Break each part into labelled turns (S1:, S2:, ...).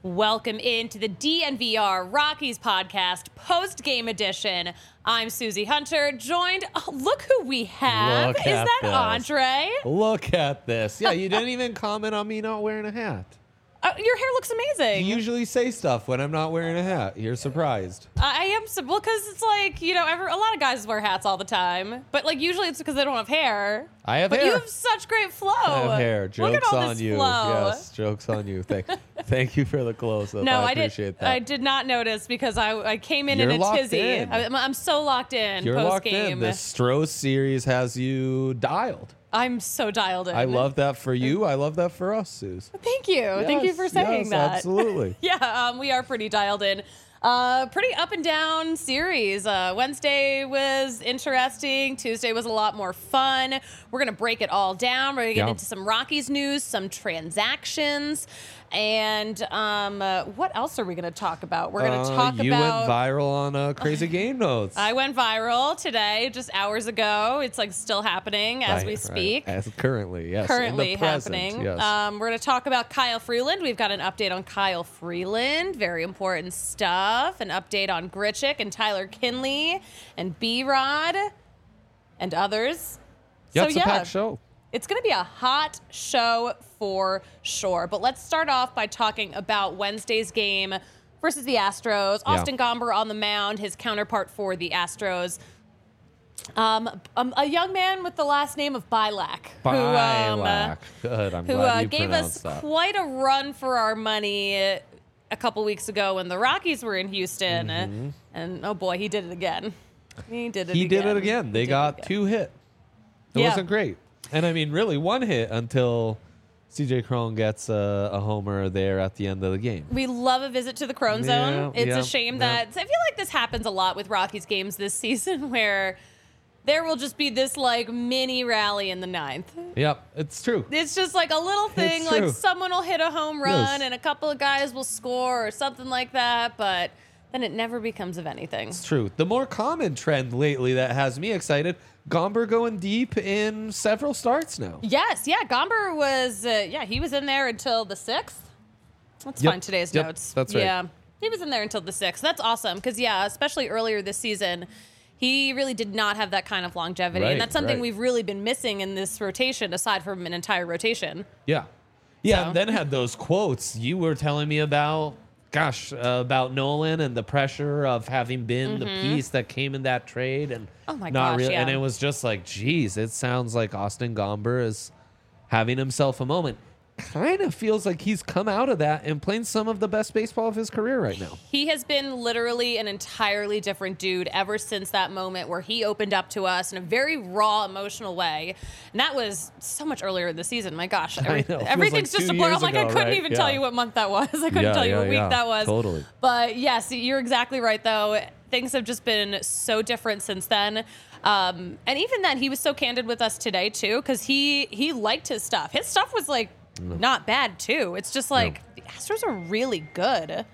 S1: Welcome into the DNVR Rockies podcast post-game edition. I'm Susie Hunter, joined, look who we have.
S2: Look
S1: Is
S2: at
S1: that
S2: this.
S1: Andre?
S2: Look at this. Yeah, you didn't even comment on me not wearing a hat.
S1: Your hair looks amazing.
S2: You usually say stuff when I'm not wearing a hat. You're surprised.
S1: I am, well, because it's like, a lot of guys wear hats all the time. But, usually it's because they don't have hair.
S2: I have
S1: but
S2: hair.
S1: You have such great flow.
S2: I have hair.
S1: Look at
S2: Joke's
S1: all
S2: on
S1: this
S2: you.
S1: flow.
S2: Yes, joke's on you. Thank you for the close-up.
S1: No,
S2: I
S1: I
S2: appreciate that.
S1: I did not notice because I came in
S2: You're
S1: a
S2: locked
S1: tizzy.
S2: in.
S1: I'm so locked in
S2: You're locked
S1: post-game.
S2: in. The Stroh series has you dialed.
S1: I'm so dialed in.
S2: I love that for you. I love that for us, Suze.
S1: Thank you. Thank you for saying that.
S2: Absolutely.
S1: Yeah, we are pretty dialed in. Pretty up and down series. Wednesday was interesting. Tuesday was a lot more fun. We're going to break it all down. We're going to get into some Rockies news, some transactions. And what else are we going to talk about? We're going to talk about...
S2: You went viral on Crazy Game Notes.
S1: I went viral today, just hours ago. It's still happening as we speak.
S2: As currently, yes.
S1: Currently
S2: in the present,
S1: happening.
S2: Yes.
S1: We're going to talk about Kyle Freeland. We've got an update on Kyle Freeland. Very important stuff. An update on Grichuk and Tyler Kinley and B-Rod and others.
S2: Yeah, it's a packed show.
S1: It's going to be a hot show for sure. But let's start off by talking about Wednesday's game versus the Astros. Austin Gomber on the mound, his counterpart for the Astros. A young man with the last name of Bilac.
S2: Good. I'm
S1: who
S2: glad you
S1: gave us
S2: pronounced that.
S1: quite a run for our money a couple weeks ago when the Rockies were in Houston. And, oh, boy, he did it again. He did it again.
S2: They got 2 hit. It wasn't great. And, I mean, really 1 hit until C.J. Cron gets a homer there at the end of the game.
S1: We love a visit to the Crone Zone. It's a shame that... I feel like this happens a lot with Rockies games this season where there will just be this, mini rally in the 9th.
S2: Yep, it's true.
S1: It's just a little thing, someone will hit a home run and a couple of guys will score or something like that, but then it never becomes of anything.
S2: It's true. The more common trend lately that has me excited, Gomber going deep in several starts now.
S1: Yes, Gomber was, he was in there until the 6th. Let's find today's notes.
S2: That's right.
S1: Yeah, he was in there until the 6th. That's awesome because, especially earlier this season, he really did not have that kind of longevity. And that's something we've really been missing in this rotation, aside from an entire rotation.
S2: Yeah. Yeah, and then had those quotes you were telling me about, about Nolan and the pressure of having been the piece that came in that trade. And
S1: oh my gosh,
S2: And it was just geez, it sounds like Austin Gomber is having himself a moment. Kind of feels like he's come out of that and playing some of the best baseball of his career right now.
S1: He has been literally an entirely different dude ever since that moment where he opened up to us in a very raw, emotional way. And that was so much earlier in the season. My gosh. Everything's just a blur. I couldn't even tell you what month that was. I couldn't tell you what week that was.
S2: Totally.
S1: But yes, you're exactly right, though. Things have just been so different since then. And even then, he was so candid with us today, too, because he liked his stuff. His stuff was not bad too. It's just the Astros are really good.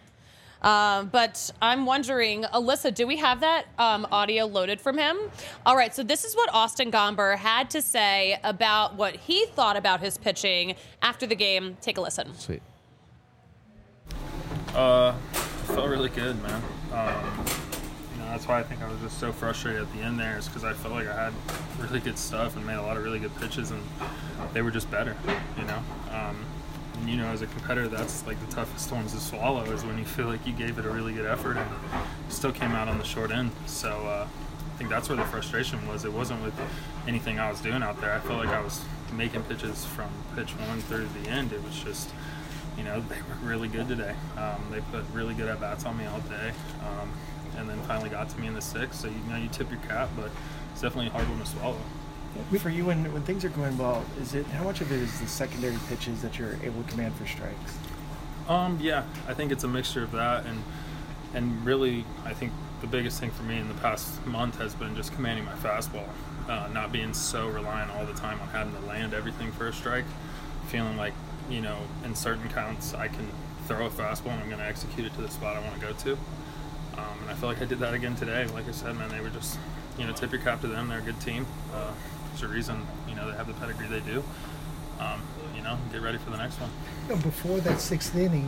S1: But I'm wondering, Alyssa, do we have that audio loaded from him? All right, so this is what Austin Gomber had to say about what he thought about his pitching after the game. Take a listen.
S2: Sweet.
S3: Felt really good, man. That's why I think I was just so frustrated at the end there, is because I felt like I had really good stuff and made a lot of really good pitches, and they were just better, And, as a competitor, that's the toughest ones to swallow, is when you feel like you gave it a really good effort and still came out on the short end. So I think that's where the frustration was. It wasn't with anything I was doing out there. I felt like I was making pitches from pitch 1 through the end. It was just, they were really good today. They put really good at-bats on me all day. And then finally got to me in the 6th. So, you tip your cap, but it's definitely a hard one to swallow.
S4: For you, when things are going well, how much of it is the secondary pitches that you're able to command for strikes?
S3: Yeah, I think it's a mixture of that, and really, I think the biggest thing for me in the past month has been just commanding my fastball, not being so reliant all the time on having to land everything for a strike, feeling like, in certain counts I can throw a fastball and I'm going to execute it to the spot I want to go to. And I feel like I did that again today. Like I said, man, they were just, tip your cap to them. They're a good team. There's a reason, they have the pedigree they do. Get ready for the next one.
S5: Before that 6th inning,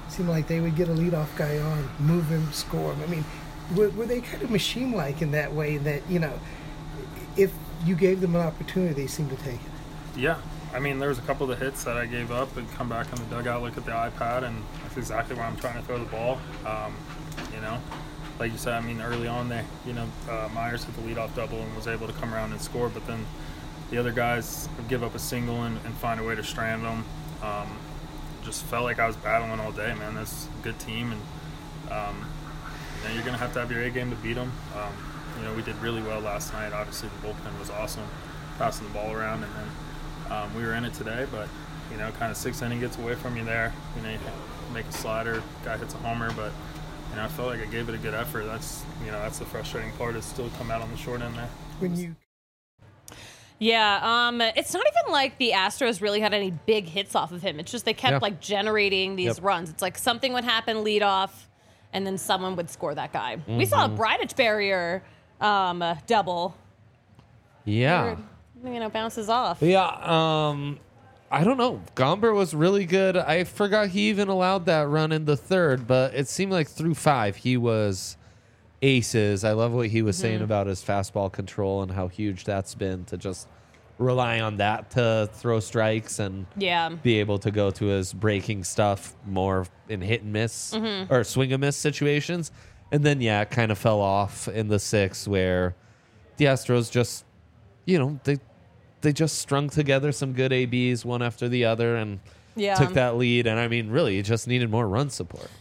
S5: seemed like they would get a leadoff guy on, move him, score him. I mean, were they kind of machine-like in that way that, if you gave them an opportunity, they seemed to take it?
S3: Yeah. I mean, there was a couple of the hits that I gave up and come back in the dugout, look at the iPad, and that's exactly where I'm trying to throw the ball. Like you said, I mean, early on there, Myers hit the leadoff double and was able to come around and score, but then the other guys would give up a single and find a way to strand them. Just felt like I was battling all day, man. That's a good team, and you're going to have your A game to beat them. We did really well last night. Obviously, the bullpen was awesome, passing the ball around, and then we were in it today, but, kind of sixth inning gets away from you there. You make a slider, guy hits a homer, but, I felt like I gave it a good effort. That's the frustrating part, is still come out on the short end there.
S1: Yeah, it's not even like the Astros really had any big hits off of him. It's just they kept generating these runs. It's like something would happen lead off, and then someone would score that guy. Mm-hmm. We saw a Bridich barrier double.
S2: Yeah.
S1: Bounces off.
S2: Yeah, I don't know. Gomber was really good. I forgot he even allowed that run in the third, but it seemed like through 5 he was aces. I love what he was saying about his fastball control and how huge that's been, to just rely on that to throw strikes and be able to go to his breaking stuff more in hit and miss or swing and miss situations. And then, it kind of fell off in the 6th, where the Astros just, they just strung together some good ABs one after the other and took that lead. And, I mean, really, it just needed more run support.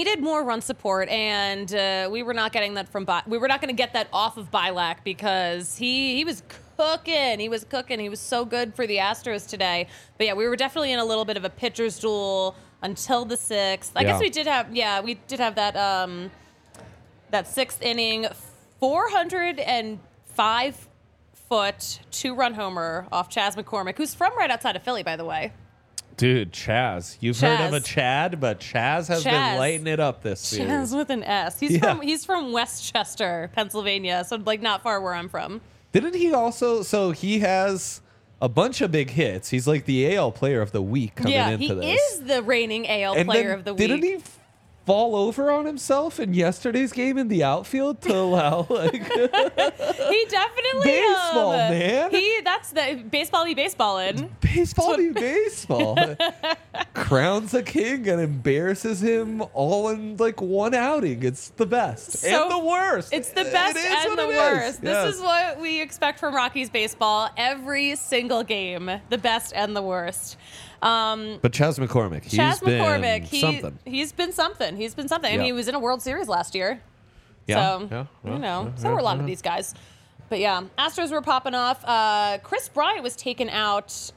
S1: And we were not getting that we were not going to get that off of Bilac, because he was cooking. He was so good for the Astros today. But, we were definitely in a little bit of a pitcher's duel until the 6th. I guess we did have that that 6th inning, 405 foot 2-run homer off Chas McCormick, who's from right outside of Philly, by the way.
S2: Dude, Chaz. You've heard of a Chad, but Chaz has been lighting it up this series.
S1: Chaz with an S. He's from Westchester, Pennsylvania, so not far where I'm from.
S2: Didn't he also? So he has a bunch of big hits. He's like the AL Player of the Week coming into this.
S1: He is the reigning AL Player of the Week.
S2: Didn't he fall over on himself in yesterday's game in the outfield to allow
S1: he definitely
S2: baseball, man.
S1: That's the baseball be baseballin'.
S2: Baseball be baseball. Crowns a king and embarrasses him all in one outing. It's the best and the worst.
S1: It's the best and the worst. This is what we expect from Rockies baseball every single game. The best and the worst.
S2: But Chas McCormick, he's been something.
S1: He's been something. I mean, he was in a World Series last year.
S2: So
S1: were a lot of these guys. But Astros were popping off. Chris Bryant was taken out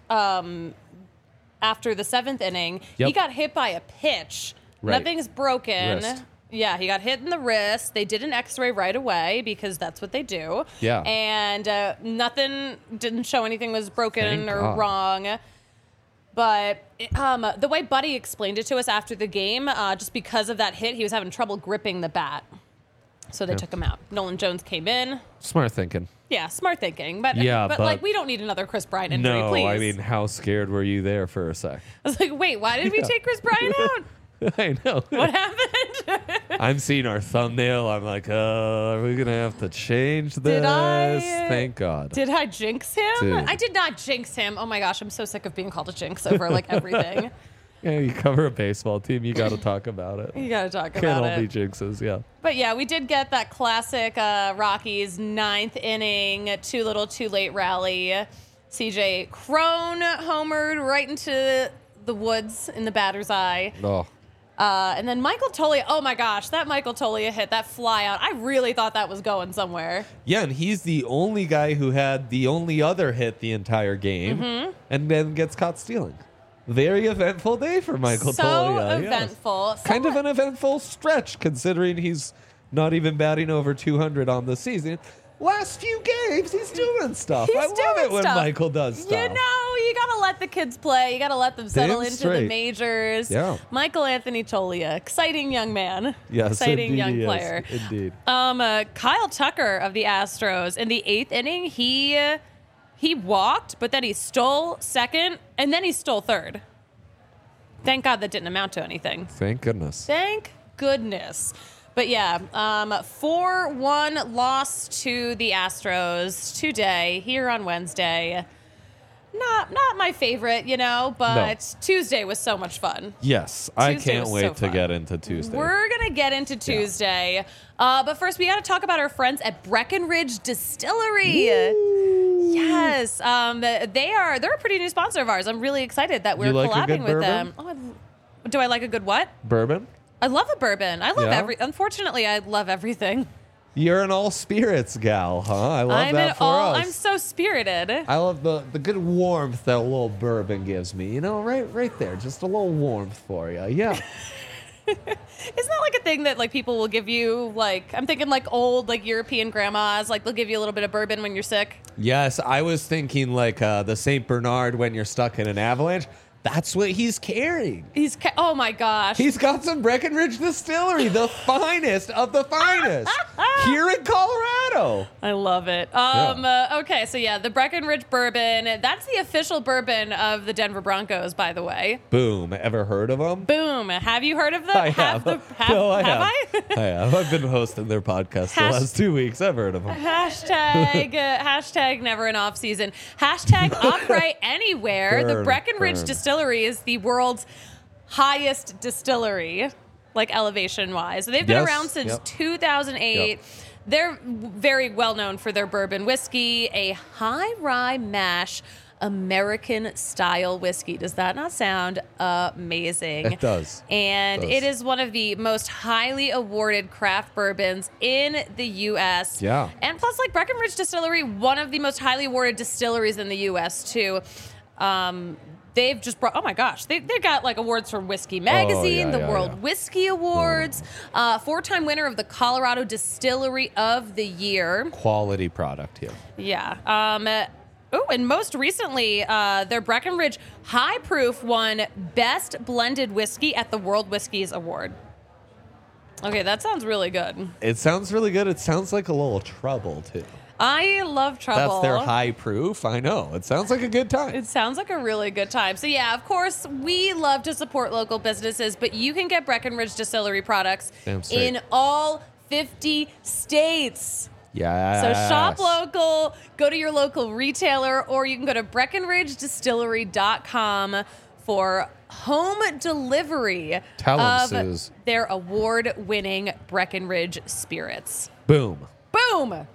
S1: after the 7th inning.
S2: Yep.
S1: He got hit by a pitch.
S2: Right.
S1: Nothing's broken.
S2: Wrist.
S1: Yeah, he got hit in the wrist. They did an X-ray right away, because that's what they do.
S2: Yeah.
S1: And didn't show anything was broken or wrong. But the way Buddy explained it to us after the game, just because of that hit, he was having trouble gripping the bat. So they took him out. Nolan Jones came in.
S2: Smart thinking.
S1: Yeah, smart thinking. But we don't need another Chris Bryant injury, please.
S2: No, I mean, how scared were you there for a sec?
S1: I was like, wait, why did we take Chris Bryant out?
S2: I know.
S1: What happened?
S2: I'm seeing our thumbnail. I'm like, are we going to have to change this? Thank God.
S1: Did I jinx him?
S2: Dude.
S1: I did not jinx him. Oh my gosh, I'm so sick of being called a jinx over everything.
S2: Yeah, you cover a baseball team. You got to talk about it.
S1: You got to talk
S2: Can't
S1: about it.
S2: all be jinxes, yeah.
S1: But we did get that classic Rockies 9th inning, too little, too late rally. CJ Cron homered right into the woods in the batter's eye.
S2: Oh.
S1: And then Michael Toglia, oh my gosh, that Michael Toglia hit, that fly out, I really thought that was going somewhere.
S2: Yeah, and he's the only guy who had the only other hit the entire game and then gets caught stealing. Very eventful day for Michael Toglia.
S1: So eventful.
S2: Yes. Kind of an eventful stretch, considering he's not even batting over 200 on the season. Last few games, he's doing stuff. I love it when Michael does stuff.
S1: You got to let the kids play. You got to let them settle into the majors.
S2: Yeah.
S1: Michael Anthony Toglia, exciting young man.
S2: Yes,
S1: exciting young player.
S2: Indeed.
S1: Kyle Tucker of the Astros, in the 8th inning, he walked, but then he stole second, and then he stole third. Thank God that didn't amount to anything.
S2: Thank goodness.
S1: Thank goodness. But yeah, 4-1 loss to the Astros today, here on Wednesday. Not my favorite, but Tuesday was so much fun.
S2: Yes, I
S1: Tuesday
S2: can't
S1: was
S2: wait
S1: so
S2: to
S1: fun.
S2: get into Tuesday.
S1: We're going to get into Tuesday. But first, we got to talk about our friends at Breckenridge Distillery. Yes. They're a pretty new sponsor of ours. I'm really excited that we're
S2: You like a
S1: collabing
S2: good
S1: with
S2: bourbon?
S1: them. Do I like a good what?
S2: Bourbon?
S1: I love a bourbon. I love
S2: Yeah?
S1: Unfortunately, I love everything.
S2: You're an all spirits gal, huh? I love that for us.
S1: I'm so spirited.
S2: I love the good warmth that a little bourbon gives me. Right there, just a little warmth for you. Yeah.
S1: Isn't that like a thing that like people will give you? Like I'm thinking like old like European grandmas, like they'll give you a little bit of bourbon when you're sick.
S2: Yes, I was thinking like the St. Bernard when you're stuck in an avalanche. That's what he's carrying.
S1: Oh my gosh.
S2: He's got some Breckenridge Distillery, the finest of the finest, here in Colorado.
S1: I love it. Okay, so yeah, the Breckenridge bourbon. That's the official bourbon of the Denver Broncos, by the way.
S2: Boom. Ever heard of them?
S1: Boom. Have you heard of them?
S2: I have.
S1: I
S2: I have. I've been hosting their podcast the last 2 weeks. I've heard of them.
S1: Hashtag never an off season. Hashtag upright anywhere. The
S2: Burn,
S1: Breckenridge
S2: burn.
S1: Distillery is the world's highest distillery, like elevation wise. So they've been
S2: Yes,
S1: around since
S2: yep.
S1: 2008.
S2: Yep.
S1: They're very well known for their bourbon whiskey, a high rye mash American style whiskey. Does that not sound amazing?
S2: It does.
S1: And
S2: It does.
S1: it is one of the most highly awarded craft bourbons in the U.S.
S2: Yeah.
S1: And plus, like Breckenridge Distillery, one of the most highly awarded distilleries in the U.S. too. They've just brought, oh my gosh, they got like awards from Whiskey Magazine, the World Whiskey Awards, 4-time winner of the Colorado Distillery of the Year.
S2: Quality product here.
S1: Yeah. And most recently, their Breckenridge High Proof won Best Blended Whiskey at the World Whiskies Award. Okay, that sounds really good.
S2: It sounds really good. It sounds like a little trouble, too.
S1: I love trouble.
S2: That's their high proof. I know. It sounds like a good time.
S1: It sounds like a really good time. So yeah, of course, we love to support local businesses, but you can get Breckenridge Distillery products
S2: Damn straight.
S1: in all 50 states.
S2: Yeah.
S1: So shop local, go to your local retailer, or you can go to BreckenridgeDistillery.com for home delivery
S2: Tell 'em,
S1: of
S2: Suze.
S1: their award-winning Breckenridge spirits.
S2: Boom.
S1: Boom!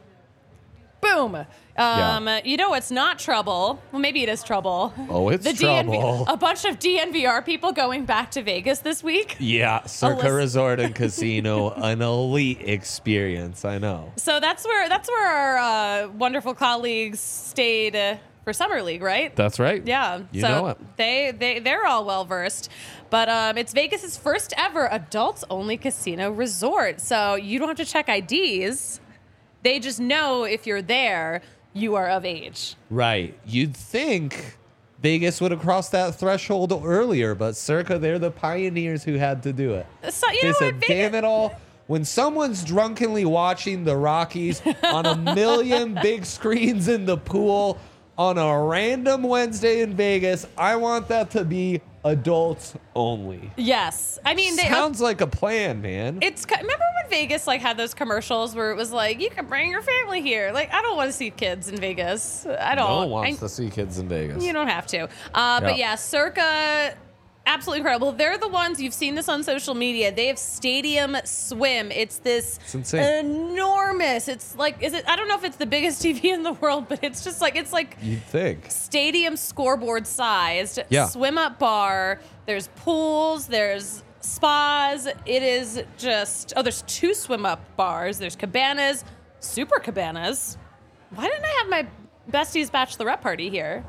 S1: Boom. You know what's not trouble? Well, maybe it is trouble.
S2: Oh, it's trouble.
S1: A bunch of DNVR people going back to Vegas this week.
S2: Yeah. Circa
S1: listen.
S2: Resort and Casino, an elite experience. I know.
S1: So that's where our wonderful colleagues stayed for Summer League, right?
S2: That's right.
S1: Yeah.
S2: You
S1: so
S2: know it.
S1: they're all well versed. But it's Vegas's first ever adults only casino resort. So you don't have to check IDs. They just know if you're there, you are of age.
S2: Right. You'd think Vegas would have crossed that threshold earlier, but Circa, they're the pioneers who had to do it.
S1: So, you
S2: They
S1: know
S2: said,
S1: what?
S2: damn it all. When someone's drunkenly watching the Rockies on a million big screens in the pool on a random Wednesday in Vegas, I want that to be adults only.
S1: Yes. I mean,
S2: Sounds like a plan, man.
S1: remember when Vegas like had those commercials where it was like, you can bring your family here. Like, I don't want to see kids in Vegas. I don't.
S2: No one wants to see kids in Vegas.
S1: You don't have to. But yeah, Circa, absolutely incredible. They're the ones, you've seen this on social media. They have Stadium Swim. It's this enormous. It's like, I don't know if it's the biggest TV in the world, but it's just like,
S2: You'd think.
S1: stadium scoreboard sized swim up bar. There's pools, there's spas. It is just, there's 2 swim up bars. There's cabanas, super cabanas. Why didn't I have my bestie's bachelorette party here?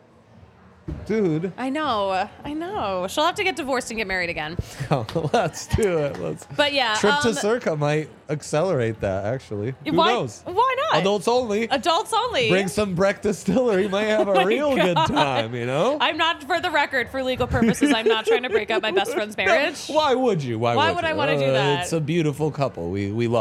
S2: Dude.
S1: I know. She'll have to get divorced and get married again.
S2: Let's do it.
S1: But yeah.
S2: Trip to Circa might accelerate that, actually. Who knows?
S1: Why not?
S2: Adults only.
S1: Adults only.
S2: Bring some Breck Distillery. Might have a real good time, you know?
S1: I'm not, for the record, for legal purposes, I'm not trying to break up my best friend's marriage.
S2: Why would you? Why would
S1: I want to do that?
S2: It's a beautiful couple. We love them.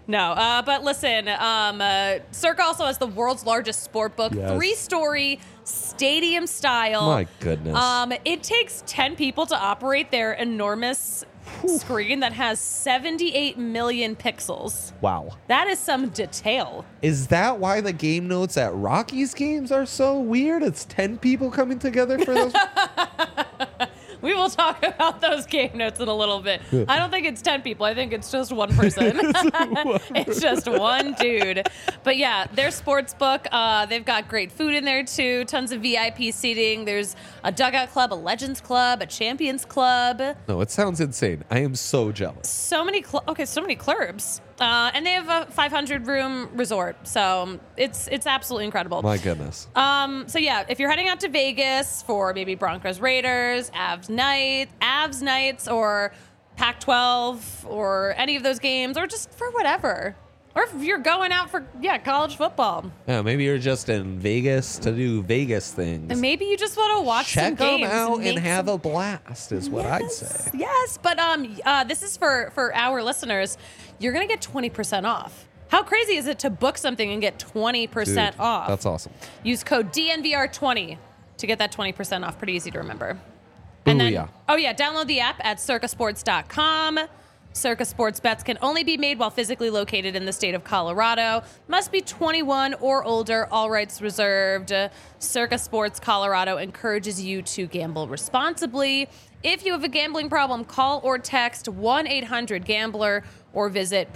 S1: No, but listen, Circa also has the world's largest sport book,
S2: Yes.
S1: 3-story stadium style.
S2: My goodness.
S1: It takes 10 people to operate their enormous screen that has 78 million pixels.
S2: Wow.
S1: That is some detail.
S2: Is that why the game notes at Rockies games are so weird? It's 10 people coming together for those.
S1: We will talk about those game notes in a little bit. I don't think it's 10 people. I think it's just one person. It's just one dude. But yeah, their sports book, they've got great food in there too. Tons of VIP seating. There's a dugout club, a legends club, a champions club.
S2: No, it sounds insane. I am so jealous.
S1: So many clubs. And they have a 500-room resort. So it's absolutely incredible.
S2: My goodness.
S1: So yeah, if you're heading out to Vegas for maybe Broncos Raiders, Avs Knights, or Pac-12, or any of those games, or just for whatever. Or if you're going out for college football.
S2: Yeah, maybe you're just in Vegas to do Vegas things.
S1: And maybe you just want to watch some
S2: Check them
S1: games.
S2: out
S1: make
S2: and have
S1: some-
S2: a blast is what I'd say.
S1: Yes, but this is for our listeners. You're going to get 20% off. How crazy is it to book something and get 20%
S2: Dude,
S1: off?
S2: That's awesome.
S1: Use code DNVR20 to get that 20% off. Pretty easy to remember.
S2: Booyah.
S1: Download the app at circasports.com. Circa Sports bets can only be made while physically located in the state of Colorado. Must be 21 or older. All rights reserved. Circa Sports Colorado encourages you to gamble responsibly. If you have a gambling problem, call or text 1-800-GAMBLER or visit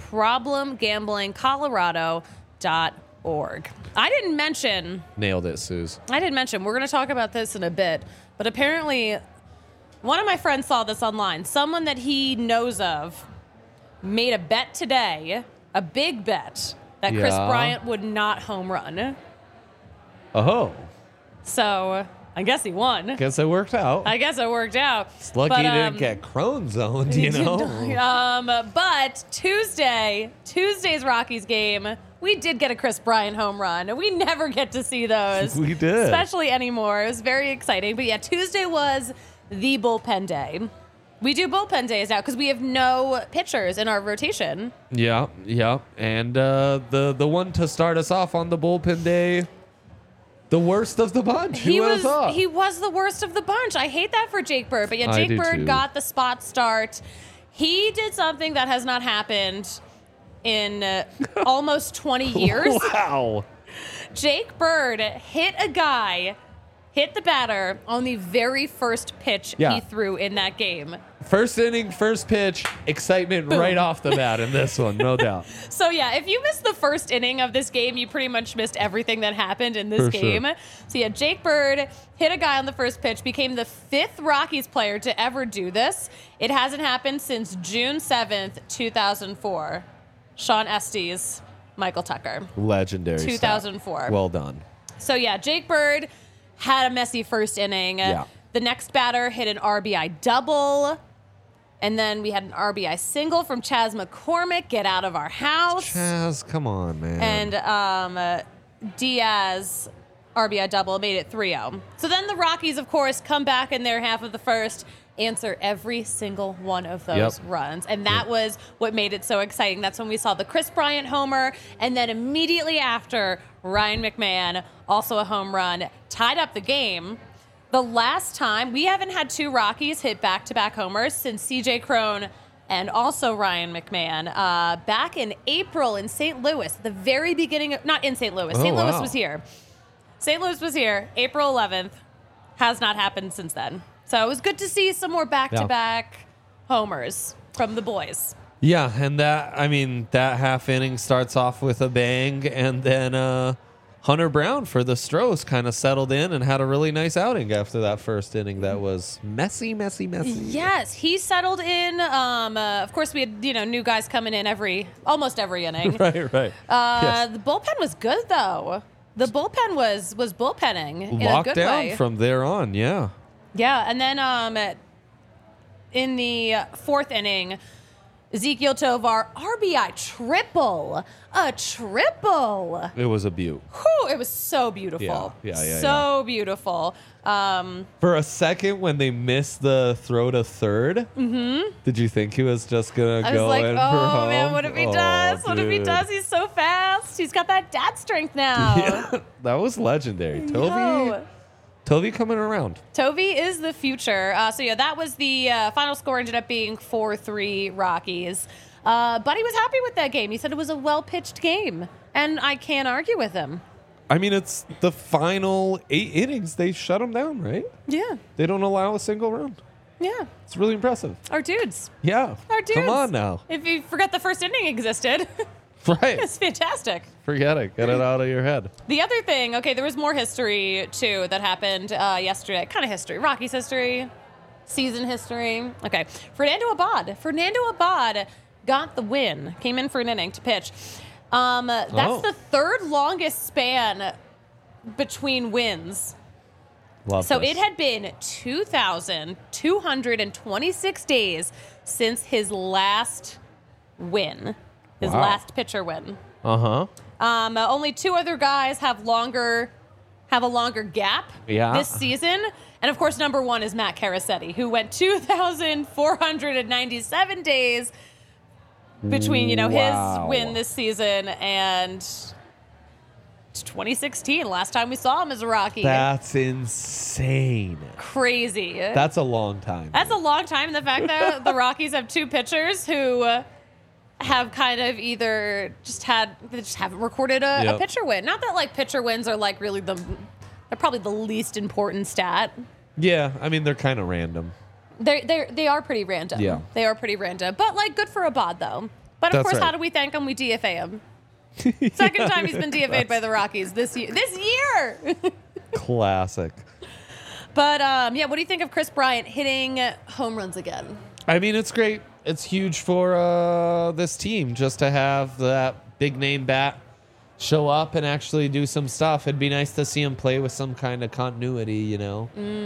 S1: problemgamblingcolorado.org. I didn't mention,
S2: Nailed it, Suze.
S1: we're going to talk about this in a bit, but apparently one of my friends saw this online. Someone that he knows of made a bet today, a big bet, that Chris
S2: Yeah.
S1: Bryant would not home run.
S2: Oh,
S1: So I guess he won.
S2: guess it worked out.
S1: I guess it worked out.
S2: It's lucky
S1: But,
S2: you didn't get Crone zoned, you know?
S1: But Tuesday's Rockies game, we did get a Chris Bryant home run. We never get to see those.
S2: We did.
S1: Especially anymore. It was very exciting. But yeah, Tuesday was the bullpen day. We do bullpen days now because we have no pitchers in our rotation.
S2: Yeah. And the one to start us off on the bullpen day, the worst of the bunch. Who would have thought?
S1: He was the worst of the bunch. I hate that for Jake Bird. But yeah,
S2: I
S1: Jake
S2: do
S1: Bird
S2: too.
S1: got the spot start. He did something that has not happened in almost 20 years.
S2: Wow.
S1: Jake Bird hit the batter on the very first pitch
S2: Yeah.
S1: he threw in that game.
S2: First inning, first pitch, excitement right off the bat in this one, no doubt.
S1: So yeah, if you missed the first inning of this game, you pretty much missed everything that happened in this
S2: For sure.
S1: game. So yeah, Jake Bird hit a guy on the first pitch, became the 5th Rockies player to ever do this. It hasn't happened since June 7th, 2004. Sean Estes, Michael Tucker.
S2: Legendary stuff.
S1: 2004.
S2: Well done.
S1: So yeah, Jake Bird had a messy first inning.
S2: Yeah.
S1: The next batter hit an RBI double. And then we had an RBI single from Chas McCormick, get out of our house.
S2: Chaz, come on, man.
S1: And Diaz, RBI double, made it 3-0. So then the Rockies, of course, come back in their half of the first, answer every single one of those
S2: Yep.
S1: runs. And that was what made it so exciting. That's when we saw the Chris Bryant homer. And then immediately after, Ryan McMahon, also a home run, tied up the game. The last time, we haven't had 2 Rockies hit back-to-back homers since C.J. Cron and also Ryan McMahon back in April in St. Louis, the very beginning of, not in St. Louis.
S2: Oh,
S1: St. Louis
S2: wow.
S1: was here. St. Louis was here, April 11th. Has not happened since then. So it was good to see some more back-to-back homers from the boys.
S2: Yeah, and that half inning starts off with a bang, and then Hunter Brown for the Stros kind of settled in and had a really nice outing after that first inning that was messy.
S1: Yes, he settled in. Of course, we had new guys coming in almost every inning.
S2: Right. Yes.
S1: The bullpen was good though. The bullpen was bullpenning in a
S2: Locked
S1: good
S2: down
S1: way.
S2: from there on, yeah.
S1: Yeah, and then in the 4th inning, Ezekiel Tovar, RBI triple. A triple.
S2: It was a beaut.
S1: Whew, it was so beautiful.
S2: Yeah.
S1: So beautiful.
S2: For a second, when they missed the throw to third, did you think he was just going to
S1: I
S2: go
S1: was like,
S2: in for
S1: oh
S2: home?
S1: man, what if he does? What if he
S2: dude.
S1: does? He's so fast. He's got that dad strength now.
S2: Yeah, that was legendary.
S1: No.
S2: Toby coming around.
S1: Tovey is the future. So yeah, that was the final score. Ended up being 4-3 Rockies. But he was happy with that game. He said it was a well-pitched game, and I can't argue with him.
S2: I mean, it's the final 8 innings. They shut him down, right?
S1: Yeah,
S2: They don't allow a single run.
S1: yeah.
S2: It's really impressive.
S1: Our dudes.
S2: Yeah.
S1: Our dudes.
S2: Come on now.
S1: If you forgot the first inning existed,
S2: Right.
S1: it's fantastic.
S2: Forget it. Get it out of your head.
S1: The other thing, okay, there was more history too that happened yesterday. Kind of history, Rockies history, season history. Okay, Fernando Abad got the win. Came in for an inning to pitch. That's the third longest span between wins.
S2: Love
S1: So
S2: this.
S1: it had been 2,226 days since his last win, his
S2: Wow.
S1: last pitcher win.
S2: Uh-huh.
S1: Only 2 other guys have a longer gap
S2: Yeah.
S1: this season. And of course, number 1 is Matt Carasetti, who went 2,497 days between,
S2: Wow.
S1: his win this season and 2016, last time we saw him as a Rocky.
S2: That's insane.
S1: Crazy.
S2: That's a long time.
S1: That's a long time. The fact that the Rockies have 2 pitchers who have kind of either they just haven't recorded a
S2: Yep.
S1: pitcher win. Not that like pitcher wins are like really they're probably the least important stat.
S2: Yeah, I mean, they're kind of random.
S1: They are pretty random.
S2: Yeah.
S1: They are pretty random. But like good for Abad though. But of
S2: That's
S1: course,
S2: right.
S1: how do we thank him? We DFA him. Second time he's been DFA'd by the Rockies this year.
S2: Classic.
S1: But yeah, what do you think of Chris Bryant hitting home runs again?
S2: I mean, it's great. It's huge for this team just to have that big name bat show up and actually do some stuff. It'd be nice to see him play with some kind of continuity,
S1: Yeah.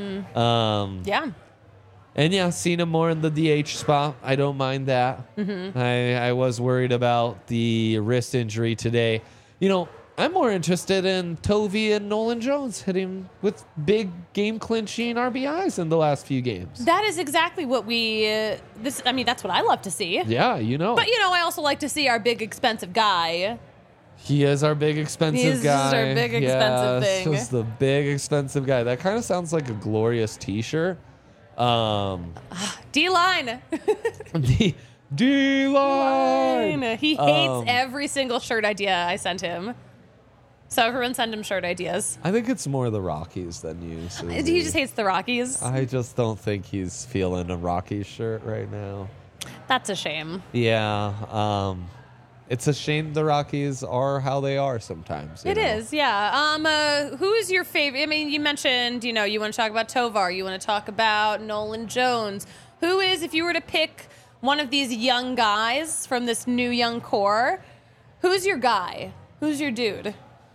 S2: And yeah, seeing him more in the DH spot, I don't mind that.
S1: Mm-hmm.
S2: I was worried about the wrist injury today. I'm more interested in Tovey and Nolan Jones hitting with big game clinching RBIs in the last few games.
S1: That is exactly what that's what I love to see.
S2: Yeah,
S1: But I also like to see our big expensive guy.
S2: He is our big expensive
S1: He's
S2: guy.
S1: our big expensive thing.
S2: Just the big expensive guy. That kind of sounds like a glorious T-shirt.
S1: D-line.
S2: The D-line.
S1: He hates every single shirt idea I sent him. So everyone send him shirt ideas.
S2: I think it's more the Rockies than you, Susie.
S1: He just hates the Rockies.
S2: I just don't think he's feeling a Rockies shirt right now.
S1: That's a shame.
S2: Yeah. It's a shame the Rockies are how they are sometimes.
S1: It is, yeah. Who is your favorite? I mean, you mentioned, you want to talk about Tovar. You want to talk about Nolan Jones. Who is, if you were to pick one of these young guys from this new young core, who's your guy? Who's your dude?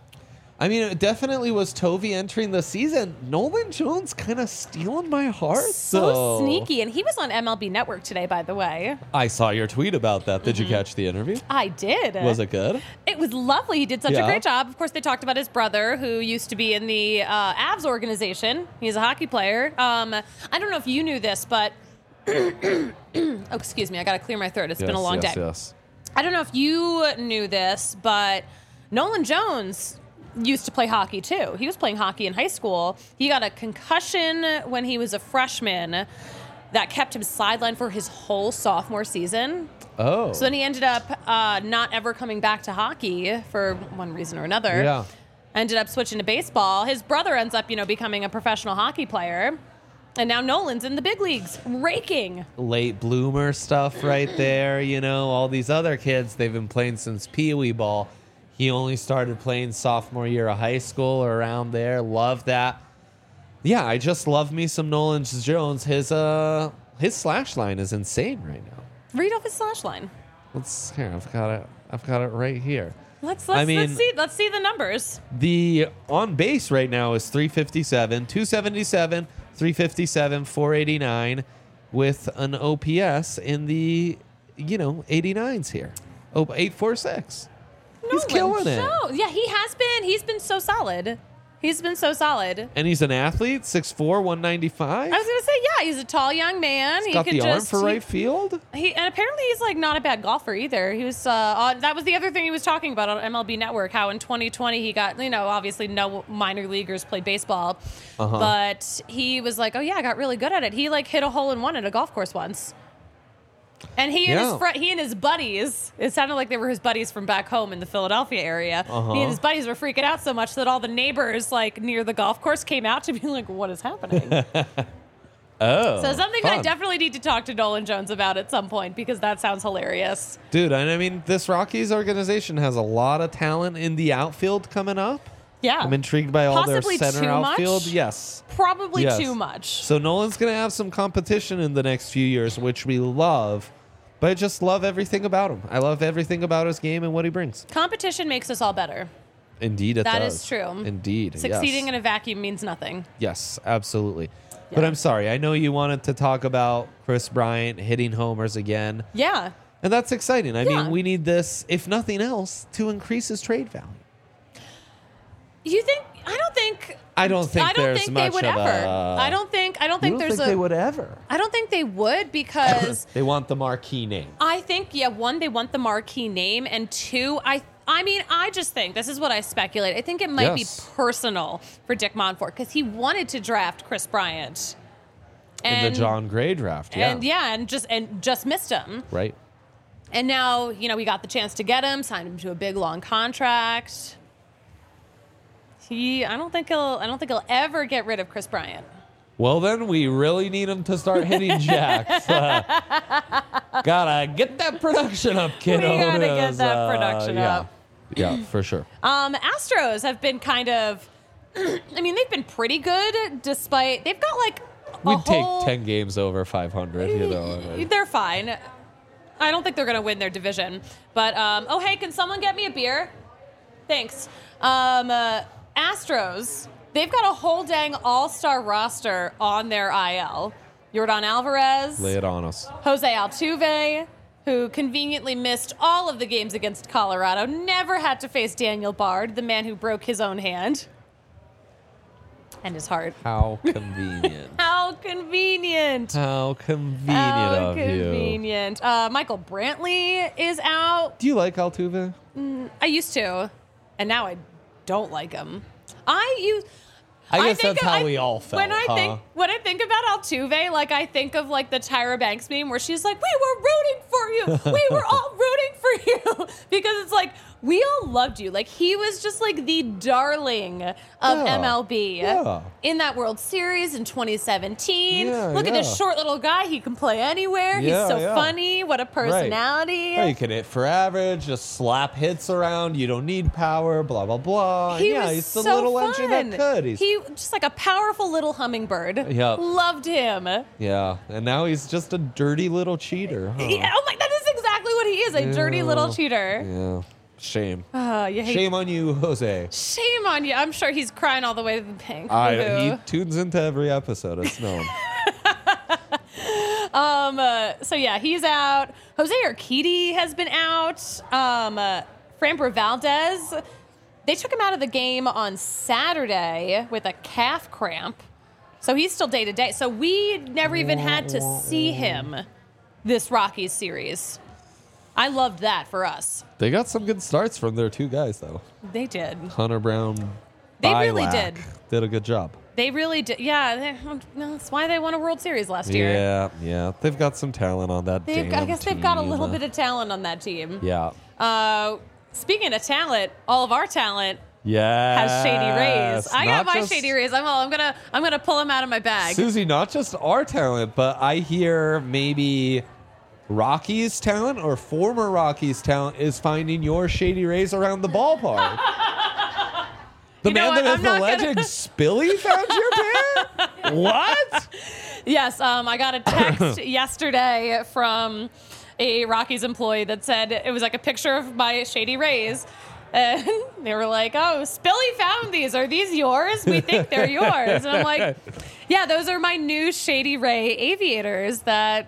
S2: I mean, it definitely was Tovey entering the season. Nolan Jones kind of stealing my heart.
S1: So sneaky. And he was on MLB Network today, by the way.
S2: I saw your tweet about that. Did you
S1: Mm-hmm.
S2: catch the interview?
S1: I did.
S2: Was it good?
S1: It was lovely. He did such a
S2: Yeah.
S1: great job. Of course, they talked about his brother, who used to be in the Avs organization. He's a hockey player. I don't know if you knew this, but oh, excuse me, I got to clear my throat. It's been a long day.
S2: Yes.
S1: I don't know if you knew this, but Nolan Jones used to play hockey too. He was playing hockey in high school. He got a concussion when he was a freshman that kept him sidelined for his whole sophomore season.
S2: Oh.
S1: So then he ended up not ever coming back to hockey for one reason or another.
S2: Yeah.
S1: Ended up switching to baseball. His brother ends up, becoming a professional hockey player. And now Nolan's in the big leagues, raking.
S2: Late bloomer stuff right there. All these other kids, they've been playing since Pee Wee ball. He only started playing sophomore year of high school or around there. Love that. Yeah, I just love me some Nolan Jones. His slash line is insane right now.
S1: Read off his slash line.
S2: Here, I've got it right here.
S1: Let's
S2: I mean-
S1: let's see the numbers.
S2: The on base right now is 357, 277, 357, 489 with an OPS in the 89s here. Oh, 846. He's
S1: Nolan,
S2: killing it.
S1: so- yeah, he has been. He's been so solid. He's been so solid.
S2: And he's an athlete, 6'4", 195.
S1: I was gonna say, yeah, he's a tall young man.
S2: He's got the arm for right field.
S1: And apparently he's like not a bad golfer either. He was that was the other thing he was talking about on MLB Network. How in 2020 he got obviously no minor leaguers played baseball, but he was like, oh yeah, I got really good at it. He like hit a hole in one at a golf course once. And he and his buddies, it sounded like they were his buddies from back home in the Philadelphia area. He and his buddies were freaking out so much that all the neighbors like near the golf course came out to be like, what is happening? So something
S2: fun.
S1: I definitely need to talk to Nolan Jones about at some point because that sounds hilarious.
S2: Dude, and I mean, this Rockies organization has a lot of talent in the outfield coming up.
S1: Yeah.
S2: I'm intrigued by all
S1: Possibly
S2: their center
S1: too
S2: outfield.
S1: much?
S2: Yes.
S1: Probably
S2: Yes.
S1: too much.
S2: So Nolan's going to have some competition in the next few years, which we love. But I just love everything about him. I love everything about his game and what he brings.
S1: Competition makes us all better.
S2: Indeed, it does.
S1: That is true.
S2: Indeed.
S1: Succeeding
S2: yes.
S1: in a vacuum means nothing.
S2: Yes, absolutely. But
S1: Yeah.
S2: I'm sorry. I know you wanted to talk about Chris Bryant hitting homers again.
S1: Yeah.
S2: And that's exciting. I
S1: Yeah.
S2: mean, we need this, if nothing else, to increase his trade value.
S1: You think? I don't think.
S2: I don't think there's
S1: they
S2: much
S1: would
S2: of
S1: ever.
S2: a-
S1: I don't think
S2: You don't
S1: there's
S2: think they would ever?
S1: I don't think they would because
S2: They want the marquee name.
S1: I think one, they want the marquee name, and two, I mean, I just think this is what I speculate. I think it might
S2: Yes.
S1: be personal for Dick Monfort because he wanted to draft Chris Bryant
S2: In the John Gray draft, yeah.
S1: and just missed him.
S2: Right.
S1: And now we got the chance to get him, signed him to a big long contract. I don't think he'll ever get rid of Chris Bryant.
S2: Well, then we really need him to start hitting jacks. Gotta get that production up, kiddo.
S1: We gotta get that production up.
S2: Yeah, for sure.
S1: Astros have been kind of, I mean, they've been pretty good despite, they've got like
S2: We'd take 10 games over 500,
S1: They're fine. I don't think they're going to win their division. But, oh, hey, can someone get me a beer? Thanks. Astros, they've got a whole dang all-star roster on their IL. Yordan Alvarez.
S2: Lay it on us.
S1: Jose Altuve, who conveniently missed all of the games against Colorado, never had to face Daniel Bard, the man who broke his own hand. And his heart.
S2: How convenient.
S1: How convenient.
S2: How convenient
S1: How
S2: of you.
S1: convenient. Michael Brantley is out.
S2: Do you like Altuve?
S1: I used to, and now I don't like him. I
S2: guess
S1: think
S2: that's how we all felt,
S1: when I think about Altuve, like I think of like the Tyra Banks meme where she's like, "We were rooting for you. We were all rooting for you," because it's like we all loved you. Like he was just like the darling of MLB in that World Series in 2017. Look at this short little guy. He can play anywhere. He's so funny. What a personality.
S2: Right. You can hit for average, just slap hits around. You don't need power, blah, blah, blah. He's the little engine that could.
S1: He just like a powerful little hummingbird.
S2: Yep.
S1: Loved him.
S2: Yeah, and now he's just a dirty little cheater. Huh?
S1: Yeah, oh my, that is exactly what he is, a dirty little cheater.
S2: Yeah. Shame.
S1: You hate
S2: Shame on you, Jose.
S1: Shame on you. I'm sure he's crying all the way to the bank.
S2: He tunes into every episode. It's known.
S1: So yeah, he's out. Jose Urquidy has been out. Framber Valdez, they took him out of the game on Saturday with a calf cramp. So he's still day to day. So we never even had to see him this Rockies series. I loved that for us.
S2: They got some good starts from their two guys, though.
S1: They did.
S2: Hunter Brown,
S1: They really
S2: Bilac did a good job.
S1: They really did. Yeah, that's why they won a World Series last year.
S2: Yeah. They've got some talent on that team.
S1: I guess they've got a little bit of talent on that team.
S2: Yeah.
S1: Speaking of talent, all of our talent
S2: Yeah.
S1: has Shady Rays. I got
S2: Not
S1: my
S2: just-
S1: Shady Rays. I'm gonna pull them out of my bag.
S2: Susie, not just our talent, but I hear maybe Rockies talent or former Rockies talent is finding your Shady Rays around the ballpark. The
S1: You know
S2: man that
S1: what?
S2: is
S1: I'm
S2: the
S1: not
S2: legend Spilly found your pair? What?
S1: Yes, I got a text yesterday from a Rockies employee that said it was like a picture of my Shady Rays. And they were like, "Oh, Spilly found these. Are these yours? We think they're yours." And I'm like, "Yeah, those are my new Shady Ray aviators that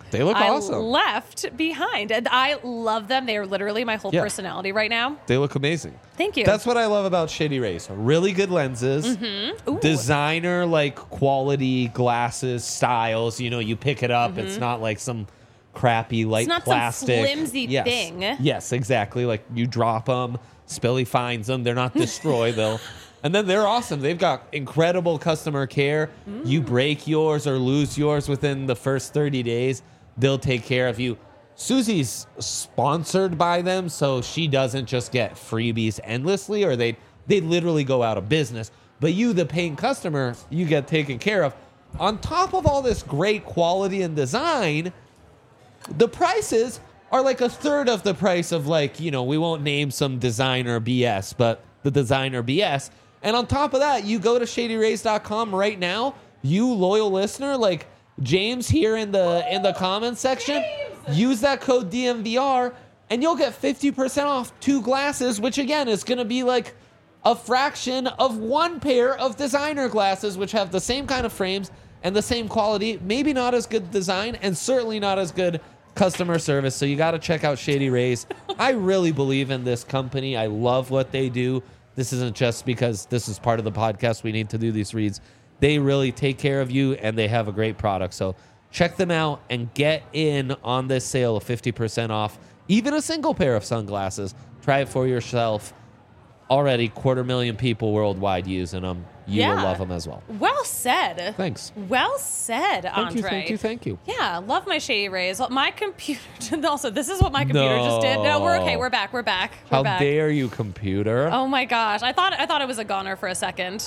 S2: They look
S1: I
S2: awesome.
S1: left behind. And I love them. They are literally my whole
S2: Yeah.
S1: personality right now.
S2: They look amazing.
S1: Thank you.
S2: That's what I love about Shady Rays. Really good lenses,
S1: Mm-hmm. Ooh.
S2: designer like quality glasses, styles. You know, you pick it up. It's not like some crappy light
S1: not some
S2: plastic
S1: flimsy thing.
S2: Yes, exactly. Like you drop them, Spilly finds them. They're not destroyed though. And then they're awesome. They've got incredible customer care. You break yours or lose yours within the first 30 days, they'll take care of you. Susie's sponsored by them, so she doesn't just get freebies endlessly, or they'd literally go out of business. But you, the paying customer, you get taken care of. On top of all this great quality and design, the prices are like a third of the price of, like, you know, we won't name some designer BS, but the designer BS. And on top of that, you go to shadyrays.com right now, you loyal listener, like James here in the comments section, use that code DMVR and you'll get 50% off 2 glasses, which again is going to be like a fraction of 1 pair of designer glasses, which have the same kind of frames and the same quality, maybe not as good design and certainly not as good customer service. So you got to check out Shady Rays. I really believe in this company. I love what they do. This isn't just because this is part of the podcast we need to do these reads. They really take care of you, and they have a great product. So check them out and get in on this sale of 50% off, even a single pair of sunglasses. Try it for yourself. Already 250,000 people worldwide using them. You will
S1: Yeah.
S2: love them as well.
S1: Well said.
S2: Thanks.
S1: Well said, Andre.
S2: Thank you.
S1: Yeah, love my Shady Rays. My computer. Also, this is what my computer just did. No, we're okay. We're back. We're back. We're
S2: How
S1: back.
S2: dare you, computer?
S1: Oh my gosh! I thought it was a goner for a second.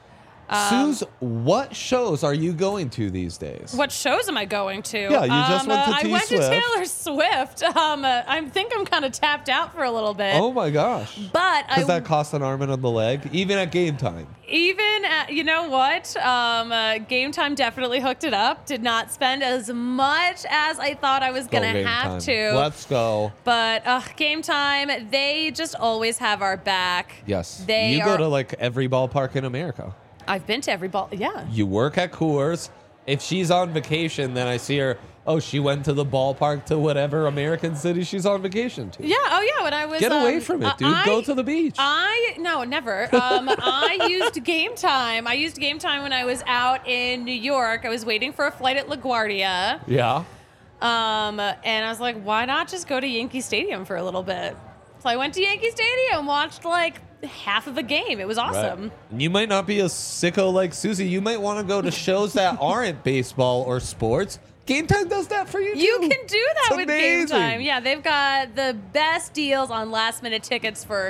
S2: Suze, what shows are you going to these days?
S1: What shows am I going to?
S2: Yeah, you just went to
S1: I
S2: T
S1: went
S2: Swift.
S1: to Taylor Swift. I think I'm kind of tapped out for a little bit.
S2: Oh my gosh.
S1: But
S2: Does that cost an arm and a leg? Even at game time.
S1: even at, you know what? Game Time definitely hooked it up. Did not spend as much as I thought I was
S2: Go
S1: gonna
S2: Game
S1: have
S2: Time.
S1: to.
S2: Let's go.
S1: But Game Time, they just always have our back.
S2: Yes.
S1: They
S2: you
S1: are.
S2: go to like every ballpark in America.
S1: I've been to every ball. Yeah.
S2: You work at Coors. If she's on vacation, then I see her. Oh, she went to the ballpark to whatever American city she's on vacation to.
S1: Yeah. Oh, yeah. When I was
S2: Get away from it, dude. Go to the beach.
S1: No, never. I used Game Time. I used Game Time when I was out in New York. I was waiting for a flight at LaGuardia.
S2: Yeah.
S1: And I was like, why not just go to Yankee Stadium for a little bit? So I went to Yankee Stadium, watched like half of a game. It was awesome.
S2: Right. And you might not be a sicko like Susie. You might want to go to shows that aren't baseball or sports. Game Time does that for you, too.
S1: You can do that
S2: It's
S1: with Game
S2: amazing.
S1: Time. Yeah, they've got the best deals on last minute tickets for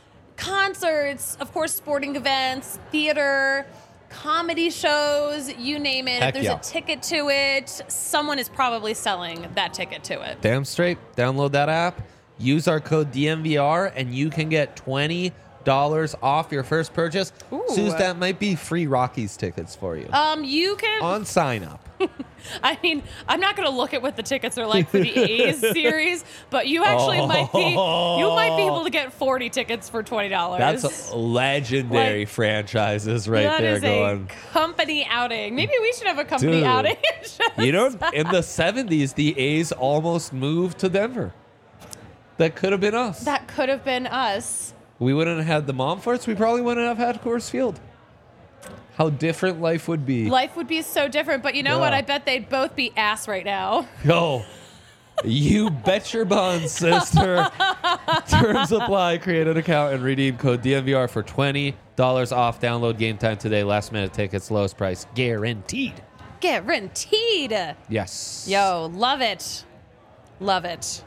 S1: concerts, of course, sporting events, theater, comedy shows, you name it.
S2: Heck
S1: if there's
S2: yeah.
S1: a ticket to it, someone is probably selling that ticket to it.
S2: Damn straight. Download that app. Use our code DMVR, and you can get $20 off your first purchase.
S1: Ooh.
S2: Suze, that might be free Rockies tickets for you.
S1: You can.
S2: On sign up.
S1: I mean, I'm not going to look at what the tickets are like for the A's series, but you actually might be able to get 40 tickets for $20.
S2: That's legendary
S1: Like,
S2: franchises right
S1: That
S2: there
S1: is
S2: going.
S1: a company outing. Maybe we should have a company
S2: Dude.
S1: outing.
S2: You know, in the 70s, the A's almost moved to Denver. That could have been us.
S1: That could have been us.
S2: We wouldn't have had the Momforts. We probably wouldn't have had Coors Field. How different life would be.
S1: Life would be so different, but you know
S2: Yeah.
S1: what? I bet they'd both be ass right now.
S2: Yo, you bet your buns, sister. Terms apply. Create an account and redeem code DMVR for $20 off. Download Game Time today. Last minute tickets, lowest price guaranteed.
S1: Guaranteed.
S2: Yes.
S1: Yo, love it. Love it.